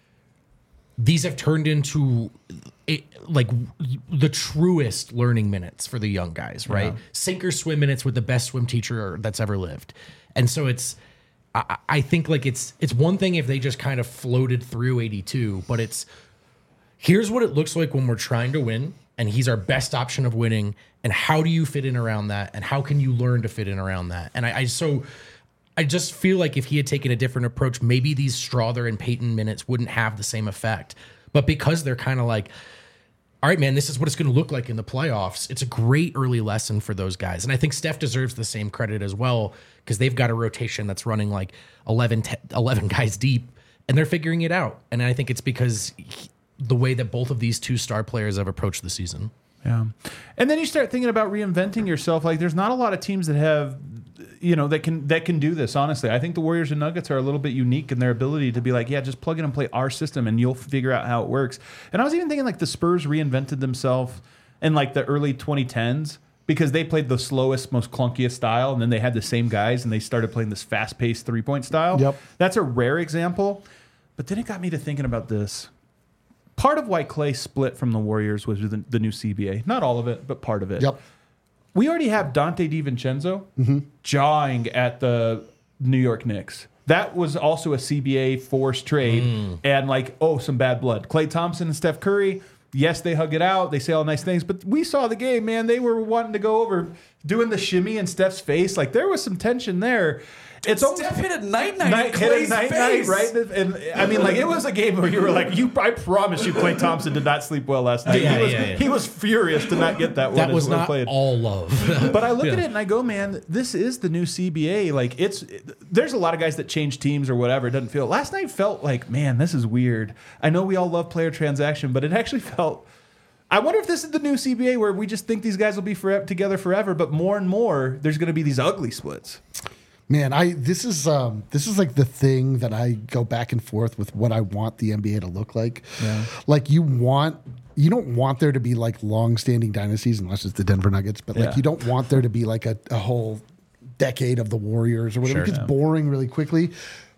These have turned into it, like the truest learning minutes for the young guys, right? Yeah. Sink or swim minutes with the best swim teacher that's ever lived. And so it's, I, I think like it's, it's one thing if they just kind of floated through eighty-two, but it's, here's what it looks like when we're trying to win, and he's our best option of winning. And how do you fit in around that? And how can you learn to fit in around that? And I, I so I just feel like if he had taken a different approach, maybe these Strother and Peyton minutes wouldn't have the same effect. But because they're kind of like, all right, man, this is what it's going to look like in the playoffs. It's a great early lesson for those guys. And I think Steph deserves the same credit as well, because they've got a rotation that's running like eleven, ten, eleven guys deep, and they're figuring it out. And I think it's because he, the way that both of these two star players have approached the season. Yeah. And then you start thinking about reinventing yourself. Like there's not a lot of teams that have, you know, that can that can do this, honestly. I think the Warriors and Nuggets are a little bit unique in their ability to be like, yeah, just plug in and play our system and you'll figure out how it works. And I was even thinking like the Spurs reinvented themselves in like the early twenty tens because they played the slowest, most clunkiest style, and then they had the same guys and they started playing this fast-paced three-point style. Yep. That's a rare example. But then it got me to thinking about this. Part of why Clay split from the Warriors was the, the new C B A. Not all of it, but part of it. Yep. We already have Dante DiVincenzo mm-hmm. jawing at the New York Knicks. That was also a C B A forced trade mm. and like, oh, some bad blood. Klay Thompson and Steph Curry, yes, they hug it out. They say all nice things, but we saw the game, man. They were wanting to go over doing the shimmy in Steph's face. Like there was some tension there. It's Steph almost, hit a night night, night hit a night night, right? And I mean, like it was a game where you were like, "You, I promise you, Klay Thompson did not sleep well last night. Yeah, he was, yeah, yeah. he was furious to not get that one. That was not played. all love. But I look yeah. at it and I go, man, this is the new C B A. Like it's, there's a lot of guys that change teams or whatever. It doesn't feel. Last night felt like, man, this is weird. I know we all love player transaction, but it actually felt. I wonder if this is the new C B A where we just think these guys will be forever, together forever, but more and more there's going to be these ugly splits. Man, I this is um, this is like the thing that I go back and forth with what I want the N B A to look like. Yeah. Like you want you don't want there to be like long-standing dynasties unless it's the Denver Nuggets, but like yeah. you don't want there to be like a, a whole decade of the Warriors or whatever. Sure, it gets yeah. boring really quickly.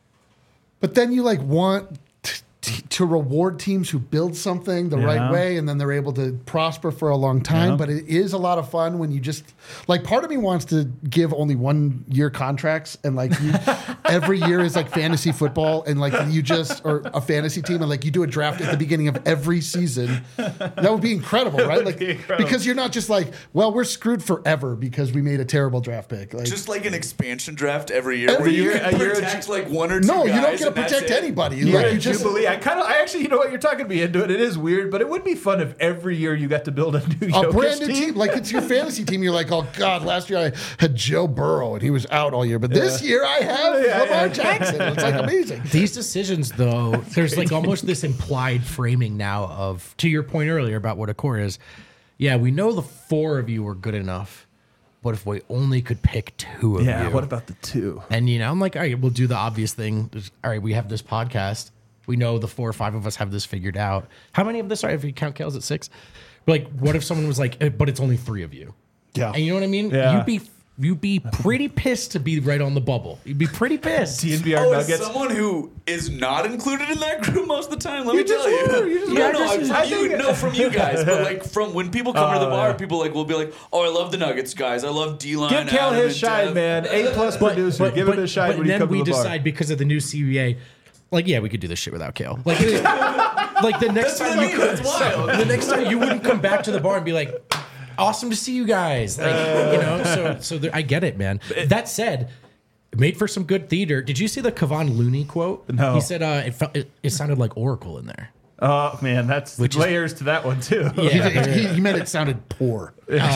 But then you like want t- to reward teams who build something the yeah. right way, and then they're able to prosper for a long time. Yeah. But it is a lot of fun when you just like. Part of me wants to give only one year contracts, and like you, every year is like fantasy football, and like you just or a fantasy team, and like you do a draft at the beginning of every season. That would be incredible, right? Like be incredible. Because you're not just like, well, we're screwed forever because we made a terrible draft pick. Like, just like an expansion draft every year, every where you year, can protect like one or two. No, guys you don't get to protect it. anybody. You're like, a you just, Jubilee. I kind of, I actually, you know what, you're talking me into it. It is weird, but it would be fun if every year you got to build a new a Jokic brand new team. team. Like it's your fantasy team. You're like, oh God, last year I had Joe Burrow and he was out all year, but yeah. this year I have yeah, Lamar yeah. Jackson. It's like amazing. These decisions, though, there's like almost this implied framing now of, to your point earlier about what a core is. Yeah, we know the four of you were good enough. But if we only could pick two of yeah, you. what about the two? And, you know, I'm like, all right, we'll do the obvious thing. All right, we have this podcast. We know the four or five of us have this figured out. How many of this are, if you count Kale's at six? But like, what if someone was like, eh, but it's only three of you? Yeah. And you know what I mean? Yeah. You'd be you'd be pretty pissed to be right on the bubble. You'd be pretty pissed. D N V R Oh, Nuggets. as someone who is not included in that group most of the time, let You me just tell were. you. You just no, were. no, I I'm just- from I you, think- no, from you guys. But like from when people come to the Oh, bar, yeah. people like will be like, "Oh, I love the Nuggets, guys. I love D-line." Give Cal Adam, his and shine, Dev." man. A plus producer. Give him his shine but when you then come we to the bar. decide because of the new C B A, like, yeah, we could do this shit without Kale. Like, like the next That's what time I you mean. could, That's wild. the next time you wouldn't come back to the bar and be like, awesome to see you guys. Like, you know, so so there, I get it, man. That said, it made for some good theater. Did you see the Kevon Looney quote? No. He said uh, it, felt, it it sounded like Oracle in there. Oh man, that's Which is- layers to that one too. Yeah. he, he meant it sounded poor.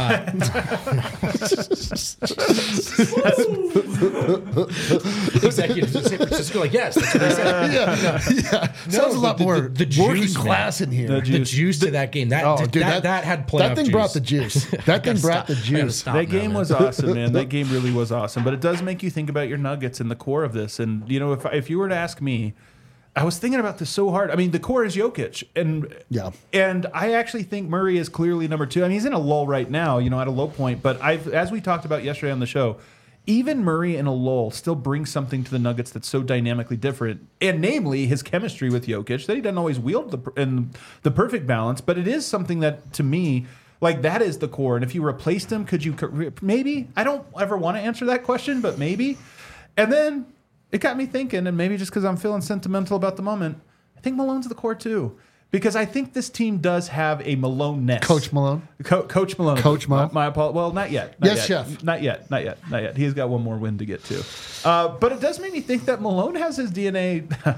Executives in San Francisco, like, yes, that's what they said. yeah, yeah. Sounds a lot the- more the- the working juice, man. class in here. The The juice. juice to that game. That Oh, did- dude, that, that had playoff that thing juice. brought the juice. That Gotta thing brought stop. the I gotta juice. stop That now, game man. was awesome, man. That game really was awesome. But it does make you think about your Nuggets and the core of this. And you know, if if you were to ask me, I was thinking about this so hard. I mean, the core is Jokic, and Yeah. and I actually think Murray is clearly number two. I mean, he's in a lull right now, you know, at a low point. But I've, as we talked about yesterday on the show, even Murray in a lull still brings something to the Nuggets that's so dynamically different, and namely his chemistry with Jokic that he doesn't always wield the in the perfect balance, but it is something that to me, like that is the core. And if you replaced him, could you maybe? I don't ever want to answer that question, but maybe. And then it got me thinking, and maybe just because I'm feeling sentimental about the moment, I think Malone's the core too. Because I think this team does have a Malone-ness. Coach Malone? Co- Coach Malone. Coach Malone? My, my apologies. Well, not yet. Not Yes, yet. chef. Not yet. Not yet. Not yet. He's got one more win to get to. Uh, but it does make me think that Malone has his D N A.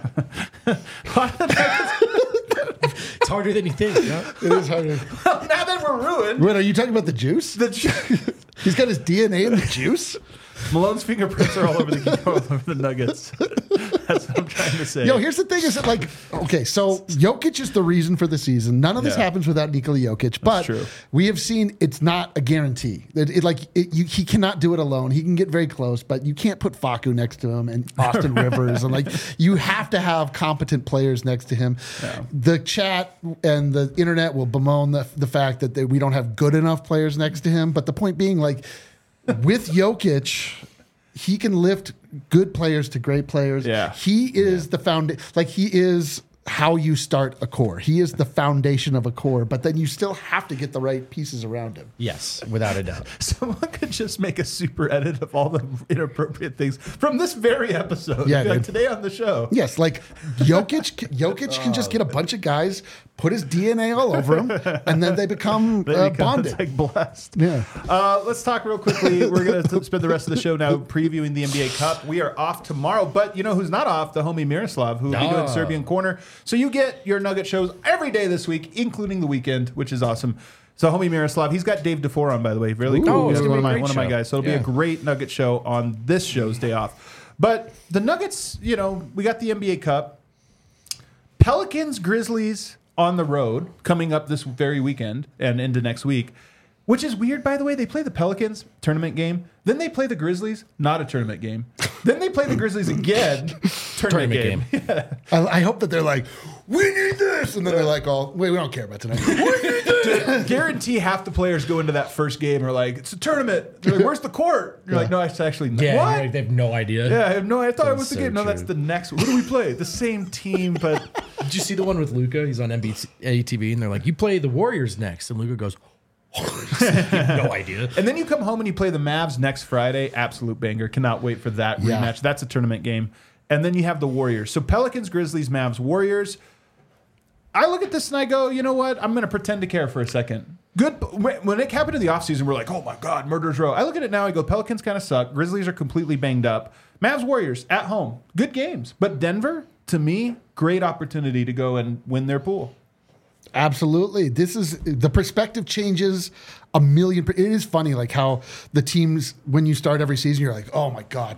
It's harder than you think. Yeah? It is harder. Well, now that we're ruined. Wait, are you talking about the juice? The ju- He's got his D N A in the juice? Malone's fingerprints are all over the all over the Nuggets. That's what I'm trying to say. Yo, here's the thing: is that like, okay, so Jokic is the reason for the season. None of this Yeah. happens without Nikola Jokic, but true. we have seen it's not a guarantee. It, it like it, you, he cannot do it alone. He can get very close, but you can't put Facu next to him and Austin Rivers, and like you have to have competent players next to him. The chat and the internet will bemoan the the fact that they, we don't have good enough players next to him. But the point being, like, with Jokic, he can lift good players to great players. Yeah. He is the found like he is how you start a core. He is the foundation of a core, but then you still have to get the right pieces around him. Yes, without a doubt. Someone could just make a super edit of all the inappropriate things from this very episode. Yeah, like dude. today on the show. Yes, like Jokic Jokic can just get a bunch of guys, put his D N A all over them, and then they become They uh, become, bonded. it's like blessed. Yeah. Uh, let's talk real quickly. We're going to spend the rest of the show now previewing the N B A Cup. We are off tomorrow, but you know who's not off? The homie Miroslav, who will be doing Oh. Serbian Corner. So you get your Nugget shows every day this week, including the weekend, which is awesome. So homie Miroslav, he's got Dave DeFore on, by the way. Really Ooh. cool. Oh, He's it's one gonna of be a my great one of my show. guys. So it'll Yeah. be a great Nugget show on this show's day off. But the Nuggets, you know, we got the N B A Cup. Pelicans, Grizzlies on the road coming up this very weekend and into next week, which is weird, by the way. They play the Pelicans tournament game. Then they play the Grizzlies, not a tournament game. Then they play the Grizzlies again, tournament, Tournament game. I, I hope that they're like, we need this, and then they're like, "Oh, wait, we don't care about tonight." We need this. Guarantee half the players go into that first game and are like, it's a tournament. They're like, where's the court? You're like, no, it's actually not. Yeah, What? right, they have no idea. Yeah, I have no. I thought it That's was the so game. No, that's true. the next. What do we play? The same team, but Did you see the one with Luca? He's on N B A T V, and they're like, "You play the Warriors next," and Luca goes, "You have no idea." and then you come home and you play the Mavs next Friday. Absolute banger. Cannot wait for that Yeah. rematch. That's a tournament game. And then you have the Warriors. So Pelicans, Grizzlies, Mavs, Warriors. I look at this and I go, you know what? I'm going to pretend to care for a second. Good. When it happened in the offseason, we're like, oh my God, murderer's row. I look at it now, I go, Pelicans kind of suck. Grizzlies are completely banged up. Mavs, Warriors at home. Good games. But Denver, to me, great opportunity to go and win their pool. Absolutely. This is the perspective changes a million. per- It is funny, like how the teams, when you start every season, you're like, oh my God,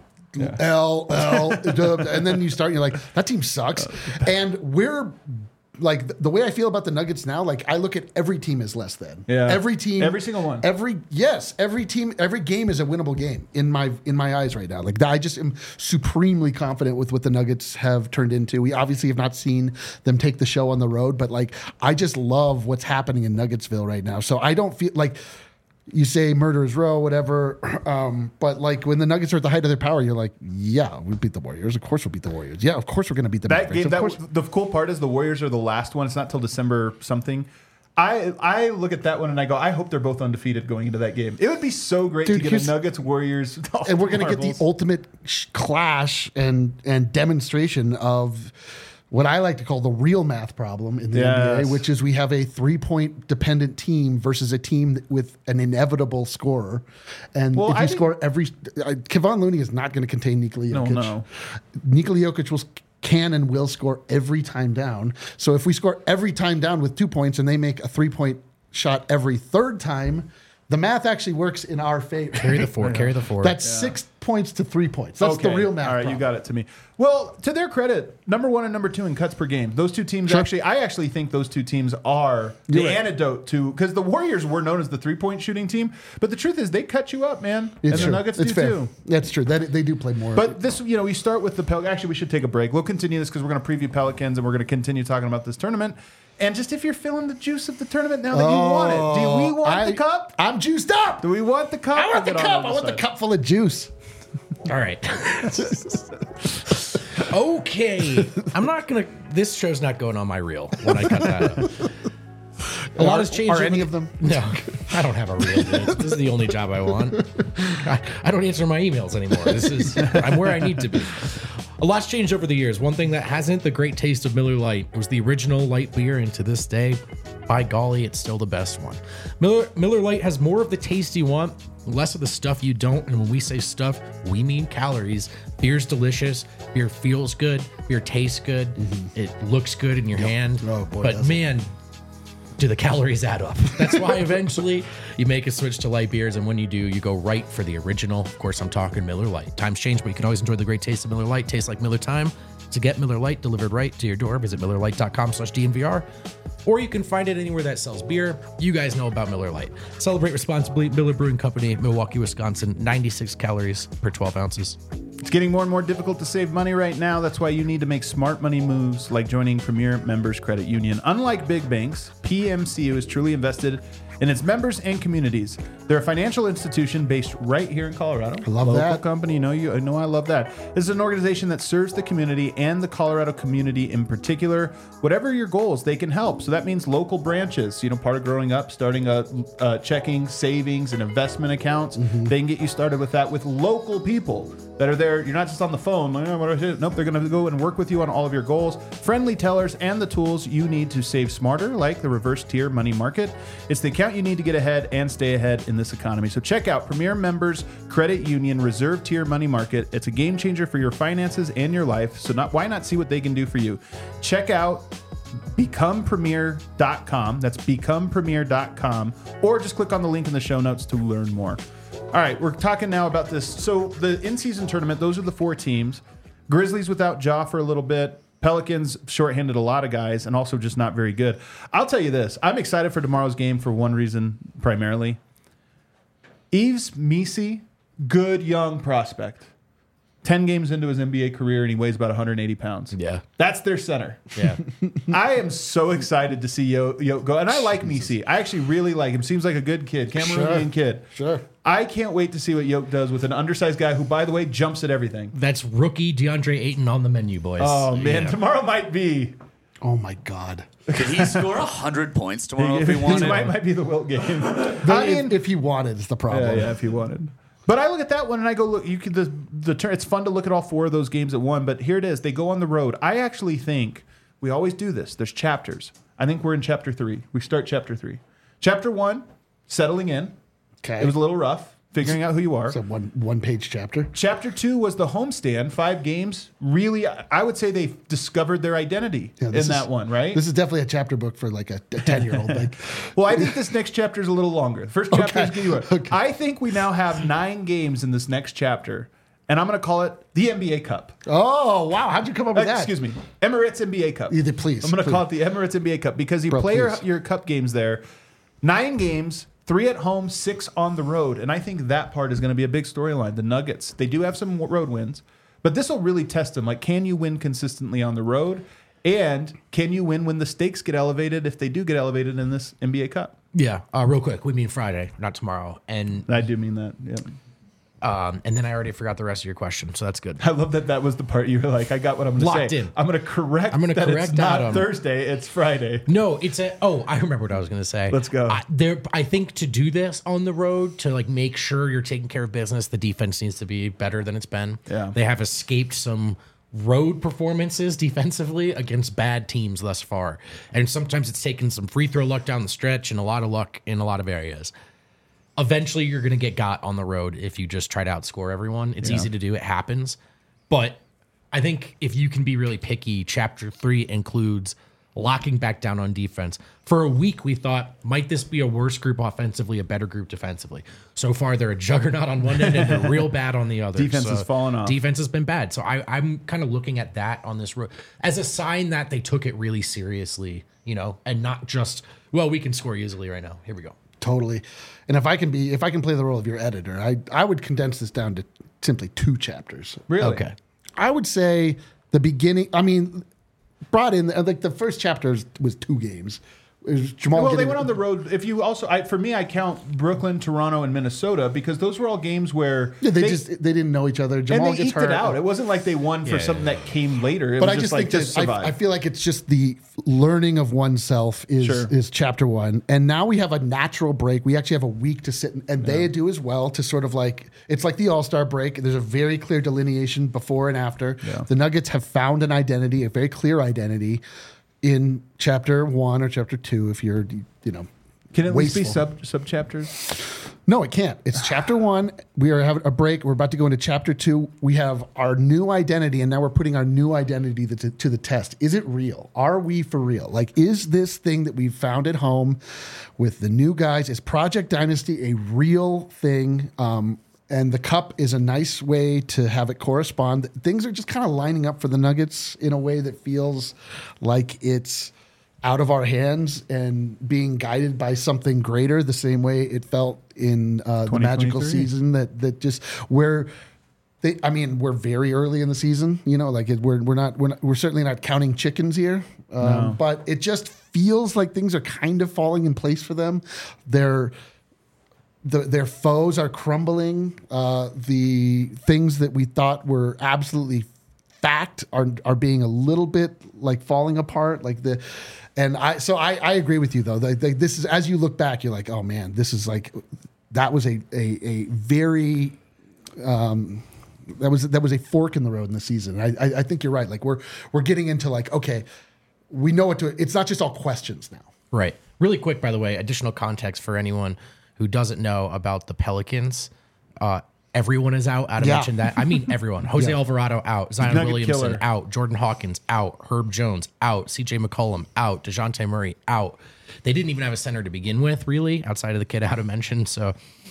L, L, dub, and then you start, and you're like, that team sucks. And we're like, th- the way I feel about the Nuggets now, like I look at every team as less than. Yeah. Every team. Every single one. Every, yes, every team, every game is a winnable game in my, in my eyes right now. Like I just am supremely confident with what the Nuggets have turned into. We obviously have not seen them take the show on the road, but like, I just love what's happening in Nuggetsville right now. So I don't feel like, you say murderer's row, whatever. Um, but like when the Nuggets are at the height of their power, you're like, yeah, we beat the Warriors. Of course we'll beat the Warriors. Yeah, of course we're going to beat the That Mavericks. game, Of that course. the cool part is the Warriors are the last one. It's not till December something. I I look at that one and I go, I hope they're both undefeated going into that game. It would be so great Dude, to get here's- a Nuggets Warriors, And we're going to get the marbles. ultimate sh- clash and and demonstration of what I like to call the real math problem in the N B Yes. A, which is we have a three-point dependent team versus a team with an inevitable scorer. And Well, if you I think- score every... Uh, Kevon Looney is not going to contain Nikola No, Jokic. no. Nikola Jokic will can and will score every time down. So if we score every time down with two points and they make a three-point shot every third time, the math actually works in our favor. Carry the four. Carry the four. That's six points to three points. That's the Okay. real math. All right, problem. you got it to me. Well, to their credit, number one and number two in cuts per game. Those two teams Sure. actually, I actually think those two teams are the You're right. antidote to, because the Warriors were known as the three point shooting team, but the truth is they cut you up, man, It's and true. the Nuggets it's do fair. too. That's true. That they do play more. But this, you know, we start with the Pel. Actually, we should take a break. We'll continue this because we're going to preview Pelicans and we're going to continue talking about this tournament. And just if you're feeling the juice of the tournament now that you want it, do we want Oh, I, the cup? I'm juiced up. Do we want the cup? I want I'll the get on cup. the I want the side. cup full of juice. All right. Okay. I'm not going to, this show's not going on my reel when I cut that up. A lot has changed. Are over any the- of them? No, I don't have a reel. Dude. This is the only job I want. I, I don't answer my emails anymore. This is, I'm where I need to be. A lot's changed over the years. One thing that hasn't, the great taste of Miller Lite. It was the original light beer, and to this day, by golly, it's still the best one. Miller, Miller Lite has more of the taste you want, less of the stuff you don't. And when we say stuff, we mean calories. Beer's delicious. Beer feels good. Beer tastes good. Mm-hmm. It looks good in your hand. Oh, boy, but does it. man, do the calories add up? That's why eventually you make a switch to light beers, and when you do, you go right for the original. Of course, I'm talking Miller Lite. Times change, but you can always enjoy the great taste of Miller Lite. Tastes like Miller time. To get Miller Lite delivered right to your door, visit miller lite dot com slash D N V R, or you can find it anywhere that sells beer. You guys know about Miller Lite. Celebrate responsibly. Miller Brewing Company, Milwaukee, Wisconsin. ninety-six calories per twelve ounces. It's getting more and more difficult to save money right now. That's why you need to make smart money moves like joining Premier Members Credit Union. Unlike big banks, P M C U is truly invested in its members and communities. They're a financial institution based right here in Colorado. I love Local that. company. You know, you I know I love that. This is an organization that serves the community and the Colorado community in particular. Whatever your goals, they can help. So that means local branches. You know, part of growing up, starting a, a checking, savings, and investment accounts. Mm-hmm. They can get you started with that with local people that are there. You're not just on the phone. Like, oh, what do I do? Nope, they're going to go and work with you on all of your goals. Friendly tellers and the tools you need to save smarter, like the reverse tier money market. It's the account you need to get ahead and stay ahead in this economy. So check out Premier Members Credit Union Reserve Tier Money Market. It's a game changer for your finances and your life. So not why not see what they can do for you? Check out become premier dot com. That's become premier dot com, or just click on the link in the show notes to learn more. All right, we're talking now about this. So the in-season tournament, those are the four teams. Grizzlies without Ja for a little bit. Pelicans shorthanded a lot of guys and also just not very good. I'll tell you this. I'm excited for tomorrow's game for one reason primarily. Yves Missi, good young prospect. ten games into his N B A career, and he weighs about one hundred eighty pounds. Yeah. That's their center. Yeah. I am so excited to see Yo, Yo go. And I like Missi. I actually really like him. Seems like a good kid. Cameroonian Sure. kid. Sure. I can't wait to see what Yoke does with an undersized guy who, by the way, jumps at everything. That's rookie DeAndre Ayton on the menu, boys. Oh, man. Yeah. Tomorrow might be. Oh my God. Could he score one hundred points tomorrow if he This wanted? might, might be the Wilt game. But I if, mean, if he wanted, it's the problem. yeah, yeah, if he wanted. But I look at that one and I go, look, you could the the turn. It's fun to look at all four of those games at one. But here it is. They go on the road. I actually think we always do this. There's chapters. I think we're in chapter three. We start chapter three. Chapter one, settling in. Okay. It was a little rough, figuring out who you are. It's a one one page chapter. Chapter two was the homestand, five games. Really, I would say they discovered their identity Yeah, in this that is- one, right? This is definitely a chapter book for like a ten year old. Like, Well, I think this next chapter is a little longer. The first chapter is getting Okay. I think we now have nine games in this next chapter, and I'm going to call it the N B A Cup. oh wow, how'd you come up with Uh, that? excuse me, Emirates N B A Cup. Either, please, I'm going to please. call it the Emirates N B A Cup because you Bro, play your, please. your cup games there. Nine games, three at home, six on the road, and I think that part is going to be a big storyline. The Nuggets, they do have some road wins, but this will really test them. Like, can you win consistently on the road? And can you win when the stakes get elevated, if they do get elevated in this N B A Cup? Yeah. Uh, real quick, we mean Friday, not tomorrow. And I do mean that. Yeah. um, and then I already forgot the rest of your question, so that's good. I love that that was the part you were like, I got what I'm going to say. Locked in. I'm going to correct I'm gonna that correct it's not Adam. Thursday, it's Friday. No, it's a. Oh, I remember what I was going to say. Let's go. I, there, I think to do this on the road to like make sure you're taking care of business, the defense needs to be better than it's been. Yeah. They have escaped some road performances defensively against bad teams thus far, and sometimes it's taken some free throw luck down the stretch and a lot of luck in a lot of areas. Eventually, you're going to get got on the road if you just try to outscore everyone. It's easy to do. It happens. But I think if you can be really picky, chapter three includes locking back down on defense. For a week, we thought, might this be a worse group offensively, a better group defensively? So far, they're a juggernaut on one end and they're real bad on the other. Defense So has fallen off. Defense has been bad. So I, I'm kind of looking at that on this road as a sign that they took it really seriously, you know, and not just, well, we can score easily right now. Here we go. Totally. And if I can be, if I can play the role of your editor, I I would condense this down to simply two chapters. Really? Okay. I would say the beginning. I mean, brought in like the first chapter was two games. Is Jamal Well, they getting- went on the road. If you also, I, for me, I count Brooklyn, Toronto, and Minnesota because those were all games where Yeah, they, just they didn't know each other. Jamal and they gets eked hurt. it out. It wasn't like they won for Yeah. something that came later. It But was I just, just like think just that survive. I, I feel like it's just the learning of oneself is Sure. is chapter one, and now we have a natural break. We actually have a week to sit, and, and they do as well to sort of like it's like the All Star break. There's a very clear delineation before and after. Yeah. The Nuggets have found an identity, a very clear identity, in chapter one or chapter two. If you're you know. Can it at least be wasteful. sub sub chapters? No, it can't. It's chapter one. We are having a break. We're about to go into chapter two. We have our new identity, and now we're putting our new identity to, to the test. Is it real? Are we for real? Like, is this thing that we've found at home with the new guys, is Project Dynasty a real thing? Um, and the cup is a nice way to have it correspond. Things are just kind of lining up for the Nuggets in a way that feels like it's out of our hands and being guided by something greater, the same way it felt in uh, the magical twenty twenty-three. season that that just where they. I mean, we're very early in the season. You know, like it, we're we're not we're not, we're certainly not counting chickens here, um, No. but it just feels like things are kind of falling in place for them. They're the, their foes are crumbling. Uh, the things that we thought were absolutely fact are are being a little bit like falling apart. Like the, and I so I, I agree with you though. Like, like this is as you look back, you're like, oh man, this is like that was a a, a very um, that was that was a fork in the road in the season. I, I I think you're right. Like we're we're getting into like okay, we know what to. It's not just all questions now. Right. Really quick, by the way, additional context for anyone who doesn't know about the Pelicans. Uh, everyone is out. I'd Yeah. mentioned that. I mean, everyone. Jose Yeah. Alvarado out. Zion Nugget Williamson killer. out. Jordan Hawkins out. Herb Jones out. C J McCollum out. DeJounte Murray out. They didn't even have a center to begin with, really, outside of the kid out of mention. So,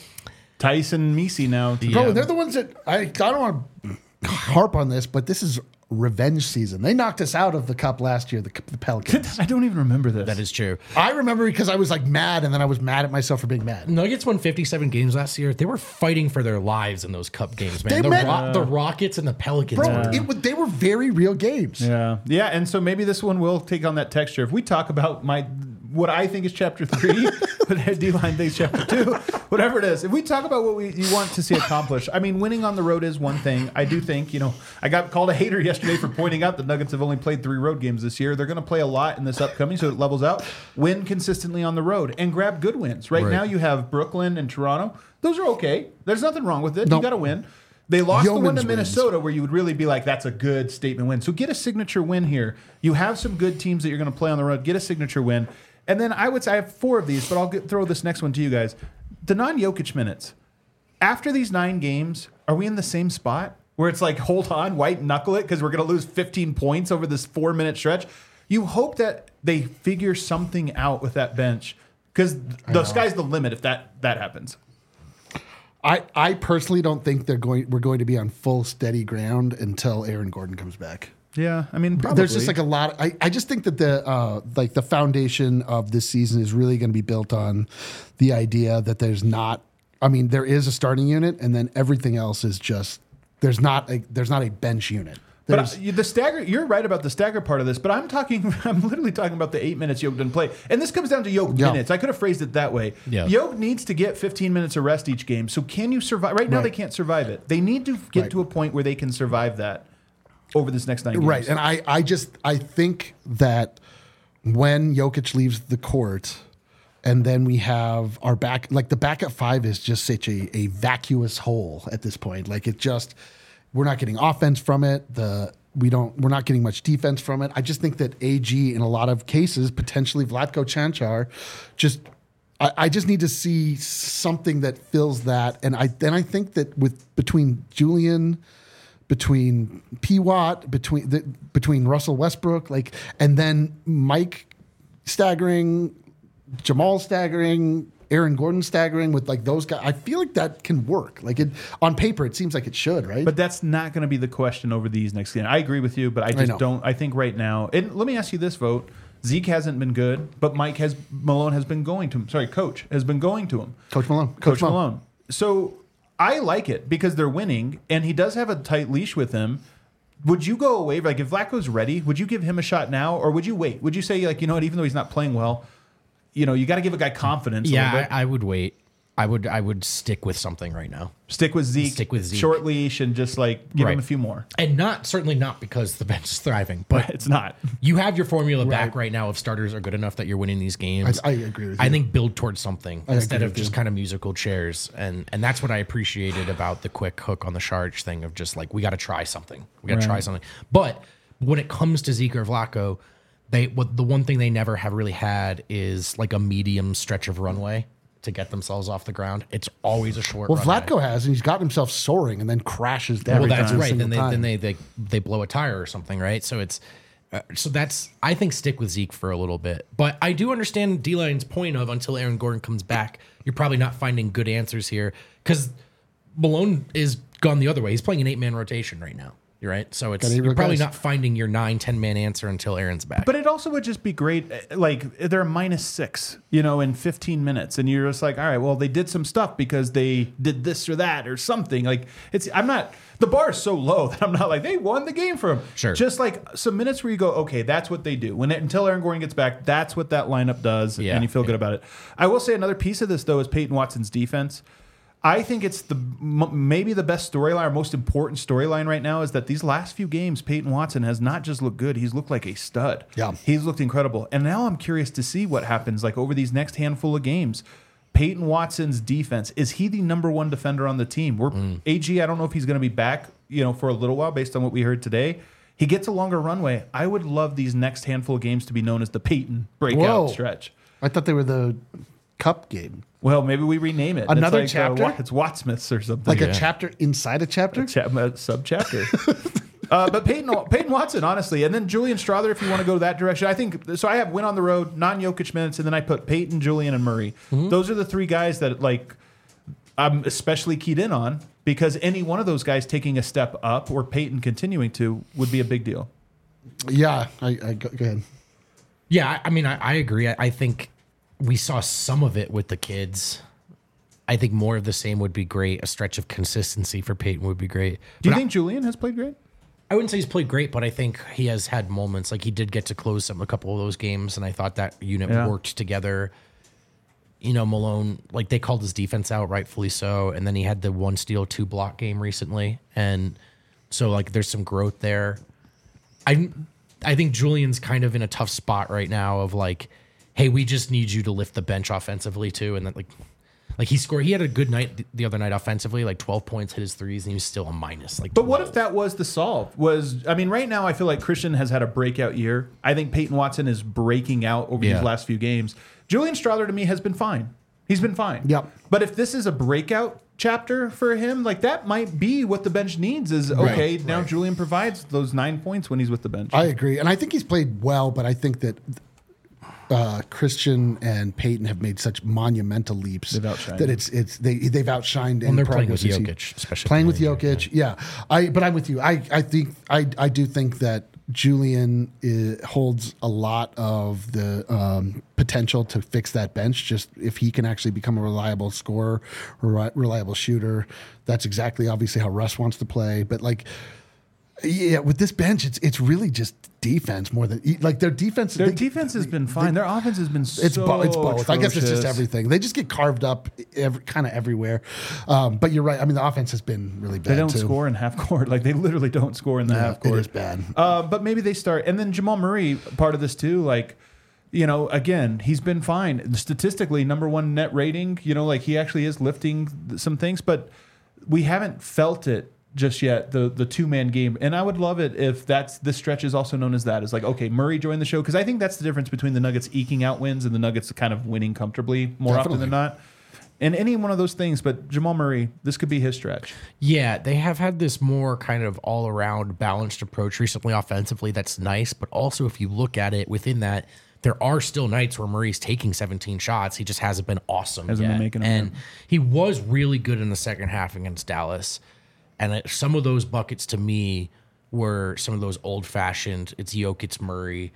Tyson Misi now. to- Bro, Yeah. they're the ones that I, I don't want to harp on this, but this is revenge season. They knocked us out of the cup last year, the, the Pelicans. I don't even remember this. that is true. I remember because I was like mad, and then I was mad at myself for being mad. Nuggets won fifty-seven games last year. They were fighting for their lives in those cup games, man. They The, meant- Ro- the Rockets and the Pelicans. Bro, were- it, was- they were very real games. Yeah, yeah, and so maybe this one will take on that texture. If we talk about my what I think is chapter three, but D-Line thinks chapter two, whatever it is. If we talk about what we you want to see accomplished, I mean, winning on the road is one thing. I do think, you know, I got called a hater yesterday for pointing out the Nuggets have only played three road games this year. They're going to play a lot in this upcoming, so it levels out. Win consistently on the road and grab good wins. Right, Right. now, you have Brooklyn and Toronto. Those are okay. There's nothing wrong with it. Nope. You got to win. They lost the one Yeoman's to wins. Minnesota, where you would really be like, that's a good statement win. So get a signature win here. You have some good teams that you're going to play on the road. Get a signature win. And then I would say I have four of these, but I'll get, throw this next one to you guys. The non-Jokic minutes. After these nine games, are we in the same spot where it's like, hold on, white knuckle it because we're going to lose fifteen points over this four-minute stretch? You hope that they figure something out with that bench because the sky's the limit if that, that happens. I, I personally don't think they're going. We're going to be on full steady ground until Aaron Gordon comes back. Yeah, I mean, probably. There's just like a lot. I, I just think that the uh, like the foundation of this season is really going to be built on the idea that there's not. I mean, there is a starting unit, and then everything else is just there's not a there's not a bench unit. But There's, uh, you- the stagger, you're right about the stagger part of this, but I'm talking, I'm literally talking about the eight minutes Yoke didn't play. And this comes down to Yoke Yeah. minutes. I could have phrased it that way. Yeah. Yoke needs to get fifteen minutes of rest each game. So can you survive? Right now, Right. they can't survive it. They need to get Right. to a point where they can survive that over this next nine games. right, and I I just I think that when Jokic leaves the court. And then we have our back, like the back at five is just such a, a vacuous hole at this point. Like it just, we're not getting offense from it. The we don't, we're not getting much defense from it. I just think that A G in a lot of cases, potentially Vlatko Chanchar, just, I, I just need to see something that fills that. And I then I think that with between Julian, between P. Watt, between the, between Russell Westbrook, like, and then Mike staggering. Jamal staggering, Aaron Gordon staggering with like those guys. I feel like that can work. Like it on paper, it seems like it should, right? But that's not going to be the question over these next games. I agree with you, but I just know. don't. I think right now, and let me ask you this, Vote. Zeke hasn't been good, but Mike has Malone has been going to him. Sorry, Coach has been going to him. Coach Malone, Coach Malone. So I like it because they're winning, and he does have a tight leash with him. Would you go away? Like if Vlatko's ready, would you give him a shot now, or would you wait? Would you say like, you know what, even though he's not playing well, you know, you got to give a guy confidence. a Yeah, little bit. I, I would wait. I would I would stick with something right now. Stick with Zeke. Stick with Zeke. Short leash and just like give Right. him a few more. And not certainly not because the bench is thriving, but It's not. you have your formula back right now if starters are good enough that you're winning these games. I, I agree with you. I think build towards something instead agree of with just you. kind of musical chairs. And and that's what I appreciated about the quick hook on the Charge thing of just like, we got to try something. We got to try something. But when it comes to Zeke or Vlaco, they what the one thing they never have really had is like a medium stretch of runway to get themselves off the ground. It's always a short Well, runway. Vlatko has, and he's got himself soaring and then crashes down. Well, that's every right. single Then they time. then they, they they blow a tire or something, right? So it's uh, so that's I think stick with Zeke for a little bit, but I do understand D-Line's point of until Aaron Gordon comes back, you're probably not finding good answers here because Malone is gone the other way. He's playing an eight man rotation right now. You're right. So it's Got eight you're probably guys. not finding your nine, ten man answer until Aaron's back. But it also would just be great. uh, Like they're a minus six, you know, in fifteen minutes, and you're just like, all right, well, they did some stuff because they did this or that or something. Like it's, I'm not. The bar is so low that I'm not like they won the game for them. Sure. Just like some minutes where you go, okay, that's what they do. When it, until Aaron Gordon gets back, that's what that lineup does, Yeah, and you feel yeah. good about it. I will say another piece of this though is Peyton Watson's defense. I think it's the m- maybe the best storyline or most important storyline right now is that these last few games, Peyton Watson has not just looked good; he's looked like a stud. Yeah. He's looked incredible. And now I'm curious to see what happens like over these next handful of games. Peyton Watson's defense, is he the number one defender on the team? We're Mm. A G, I don't know if he's going to be back, you know, for a little while based on what we heard today. He gets a longer runway. I would love these next handful of games to be known as the Peyton breakout Whoa. stretch. I thought they were the cup game. Well, maybe we rename it. Another it's like, uh, chapter? Wa- it's Wattsmiths or something. Like a chapter inside a chapter? Cha- uh, sub chapter. uh, but Peyton, Peyton Watson, honestly, and then Julian Strother, if you want to go that direction. I think so. I have win on the road, non Jokic minutes, and then I put Peyton, Julian, and Murray. Mm-hmm. Those are the three guys that like I'm especially keyed in on because any one of those guys taking a step up or Peyton continuing to would be a big deal. Yeah. I, I go, go ahead. Yeah, I I mean, I, I agree. I, I think we saw some of it with the kids. I think more of the same would be great. A stretch of consistency for Peyton would be great. Do you But think Julian has played great? I, I wouldn't say he's played great, but I think he has had moments. Like he did get to close some a couple of those games, and I thought that unit Yeah. worked together. You know, Malone, like they called his defense out, rightfully so, and then he had the one steal, two block game recently, and so like there's some growth there. I I think Julian's kind of in a tough spot right now of like, hey, we just need you to lift the bench offensively too, and then like, like he scored. He had a good night th- the other night offensively, like twelve points, hit his threes, and he was still a minus. Like, But what twelve. if that was the solve? Was I mean, right now I feel like Christian has had a breakout year. I think Peyton Watson is breaking out over Yeah. these last few games. Julian Strother to me has been fine. He's been fine. Yep. But if this is a breakout chapter for him, like that might be what the bench needs. Is okay now Julian provides those nine points when he's with the bench. I agree. And I think he's played well, but I think that uh, Christian and Peyton have made such monumental leaps They've outshined that him. it's it's they they've outshined When any they're playing progress with we've seen. Jokic, especially playing with playing, Jokic. Yeah. I but I'm with you. I I think I I do think that Julian is, holds a lot of the um, potential to fix that bench. Just if he can actually become a reliable scorer, or reliable shooter, that's exactly obviously how Russ wants to play. But like, yeah, with this bench, it's it's really just defense more than like their defense. Their they- defense has been fine. Their offense has been It's, so bo- it's both. I guess it's just atrocious. everything. They just get carved up every, kind of everywhere. Um, but you're right. I mean, the offense has been really bad. They don't too. score in half court. Like they literally don't score in the Yeah, half it court. is bad. Uh, but maybe they start. And then Jamal Murray, part of this too, like, you know, again, he's been fine. Statistically, number one net rating, you know, like he actually is lifting th- some things, but we haven't felt it just yet, the the two-man game. And I would love it if that's this stretch is also known as that. It's like, okay, Murray joined the show. Because I think that's the difference between the Nuggets eking out wins and the Nuggets kind of winning comfortably more often than Definitely. not. And any one of those things, but Jamal Murray, this could be his stretch. Yeah, they have had this more kind of all around balanced approach recently offensively. That's nice. But also, if you look at it within that, there are still nights where Murray's taking seventeen shots. He just hasn't been awesome. Hasn't been yet. making them, And yeah. he was really good in the second half against Dallas. And it, some of those buckets to me were some of those old fashioned, it's Jokic Murray.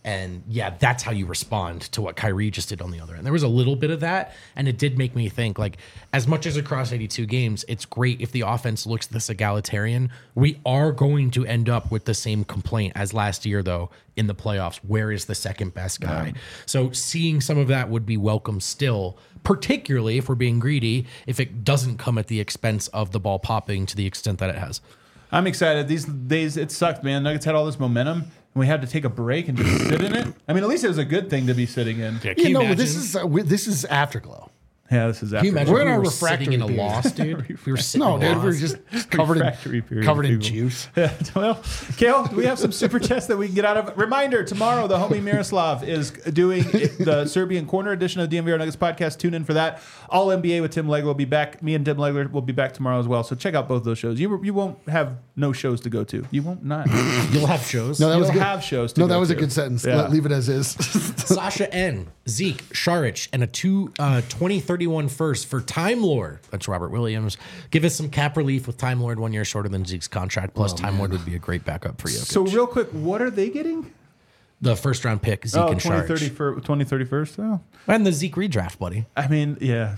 And yeah, that's how you respond to what Kyrie just did on the other end. There was a little bit of that, and it did make me think, like, as much as across eighty-two games, it's great if the offense looks this egalitarian. We are going to end up with the same complaint as last year, though, in the playoffs. Where is the second best guy? Yeah. So seeing some of that would be welcome still, particularly if we're being greedy, if it doesn't come at the expense of the ball popping to the extent that it has. I'm excited. These days, it sucked, man. Nuggets had all this momentum, and we had to take a break and just sit in it. I mean, at least it was a good thing to be sitting in. Yeah, you, you know, imagine? this is uh, we, this is Afterglow. Yeah, this is after. Can you imagine We're if in we our were refractory sitting in a period. loss, dude? We were sitting No, in a dude, we're loss. just covered Refractory in period, covered in people. juice. Yeah, well, Kale, do we have some super chats that we can get out of? Reminder, tomorrow, the homie Miroslav is doing the Serbian Corner edition of the D M V R Nuggets podcast. Tune in for that. All N B A with Tim Legler will be back. Me and Tim Legler will be back tomorrow as well. So check out both those shows. You you won't have no shows to go to. You won't not. You'll have shows. No, that was You'll good. have shows to No, go that was to. a good sentence. Yeah. Let, leave it as is. Sasha N, Zeke, Sharich, and a two uh, twenty thirty-one first for Time Lord. That's Robert Williams. Give us some cap relief with Time Lord one year shorter than Zeke's contract. Plus, Time Lord would be a great backup for you. So real quick, what are they getting? The first round pick, Zeke Oh, and twenty thirty Sharich. for twenty thirty-first. Oh. And the Zeke redraft, buddy. I mean, yeah.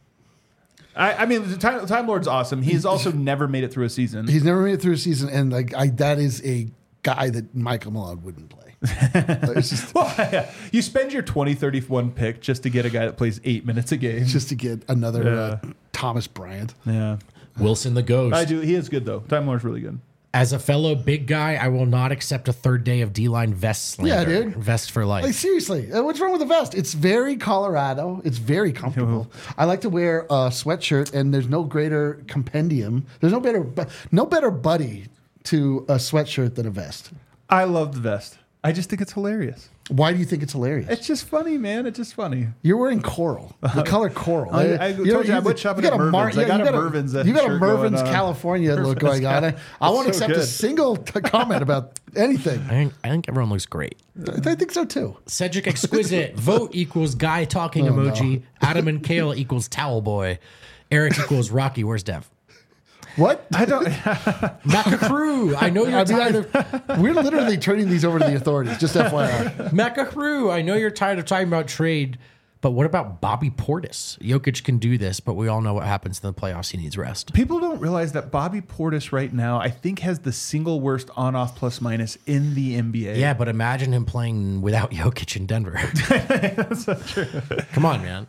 I, I mean, the Time, Time Lord's awesome. He's also never made it through a season. He's never made it through a season, and like I, that is a guy that Michael Malone wouldn't play. It's just, Well, yeah. You spend your twenty thirty-one pick just to get a guy that plays eight minutes a game. just to get another Yeah. uh, Thomas Bryant. Yeah. Wilson the Ghost. I do. He is good, though. Time Lord's really good. As a fellow big guy, I will not accept a third day of D-line vest slander. Yeah, dude. Vest for life. Like seriously, uh, what's wrong with the vest? It's very Colorado. It's very comfortable. I like to wear a sweatshirt, and there's no greater compendium. There's no better, bu- no better buddy to a sweatshirt than a vest. I love the vest. I just think it's hilarious. Why do you think it's hilarious? It's just funny, man. It's just funny. You're wearing coral, the color coral. I- I You told you I you- went shopping you got at a Mar- Mervyn's. I yeah, got you a got Mervyn's You got a shirt going Mervyn's on. California look Mervyn's going on. I, I won't It's so accept a good. single t- comment about anything. I think, I think everyone looks great. I think so too. Cedric Exquisite, vote equals guy talking Oh, emoji. Adam and Kale equals towel boy. Eric equals Rocky. Where's Dev? What? I don't. Macacrew. I know you're I mean, tired I- of we're literally turning these over to the authorities. Just F Y I. Macacrew. I know you're tired of talking about trade, but what about Bobby Portis? Jokic can do this, but we all know what happens in the playoffs. He needs rest. People don't realize that Bobby Portis right now, I think, has the single worst on-off plus minus in the N B A. Yeah, but imagine him playing without Jokic in Denver. That's not true. Come on, man.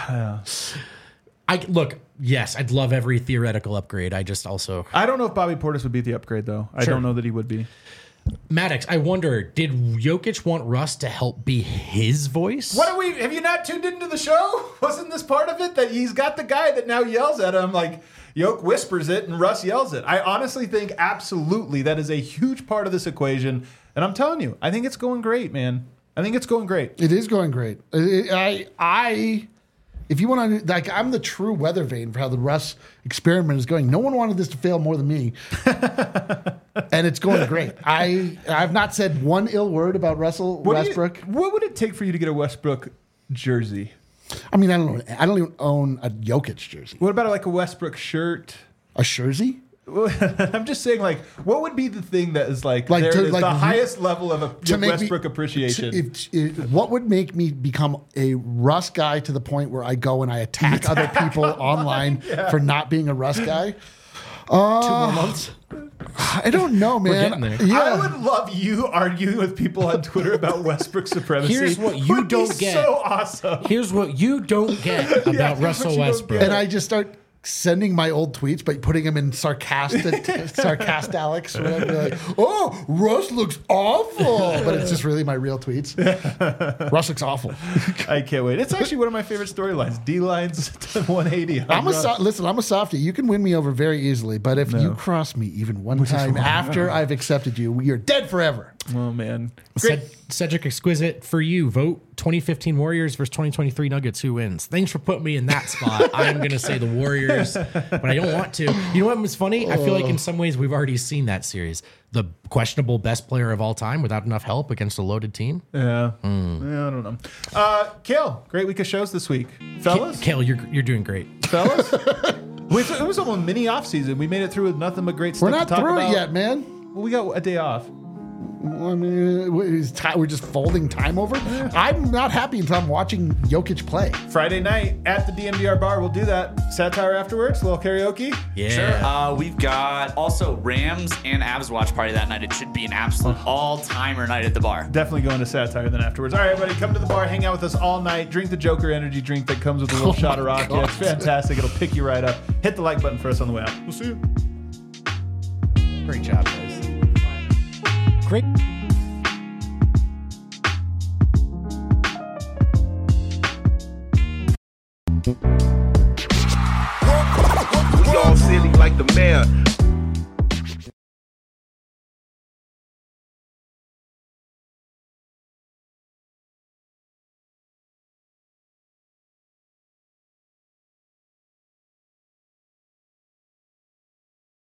I look. Yes, I'd love every theoretical upgrade. I just also I don't know if Bobby Portis would be the upgrade, though. I Sure. don't know that he would be. Maddox. I wonder, did Jokic want Russ to help be his voice? What are we? Have you not tuned into the show? Wasn't this part of it that he's got the guy that now yells at him like Yoke whispers it and Russ yells it? I honestly think absolutely that is a huge part of this equation, and I'm telling you, I think it's going great, man. I think it's going great. It is going great. I, I, I if you want to, like, I'm the true weather vane for how the Russ experiment is going. No one wanted this to fail more than me, and it's going great. I, I've not said one ill word about Russell What do you- Westbrook. what would it take for you to get a Westbrook jersey? I mean, I don't know. I don't even own a Jokic jersey. What about like a Westbrook shirt? A jersey? I'm just saying, like, what would be the thing that is like, Like there to- is like the re- highest level of a to make me- Westbrook appreciation? If, if, what would make me become a Russ guy to the point where I go and I attack other people online for not being a Russ guy? Two more months. I don't know, man. getting there. Yeah. I would love you arguing with people on Twitter about Westbrook supremacy. Here's what you Would be don't get. So awesome. Here's what you don't get about here's what Russell you don't Westbrook. get. And I just start sending my old tweets, but putting them in sarcastic, sarcastic Alex. Or whatever. Like, oh, Russ looks awful, but it's just really my real tweets. Russ looks awful. I can't wait. It's actually one of my favorite storylines. D lines to one eighty. on I'm a Russ. so- listen. I'm a softie. You can win me over very easily, but if you cross me even one time after I've accepted you, you're dead forever. Oh man. Great. Ced- Cedric Exquisite, for you, vote twenty fifteen Warriors versus twenty twenty-three Nuggets. Who wins? Thanks for putting me in that spot. I'm going to say the Warriors, but I don't want to. You know what was funny? I feel like in some ways we've already seen that series. The questionable best player of all time without enough help against a loaded team. Yeah. Yeah. I don't know. Uh, Kale, great week of shows this week, fellas. Kale, you're you're doing great. fellas. We- It was almost mini off season. We made it through with nothing but great stuff We're not to talk through about. it yet, man. Well, we got a day off. I mean, is time, we're just folding time over. I'm not happy until I'm watching Jokic play. Friday night at the D N V R bar, we'll do that. Satire afterwards, a little karaoke. Yeah. Sure. Uh, we've got also Rams and Avs watch party that night. It should be an absolute all-timer night at the bar. Definitely going to Satire then afterwards. All right, everybody, come to the bar, hang out with us all night, drink the Joker energy drink that comes with a little Oh shot of my rocket. God. It's fantastic. It'll pick you right up. Hit the like button for us on the way out. We'll see you. Great job, guys. Great. We all silly like the mayor.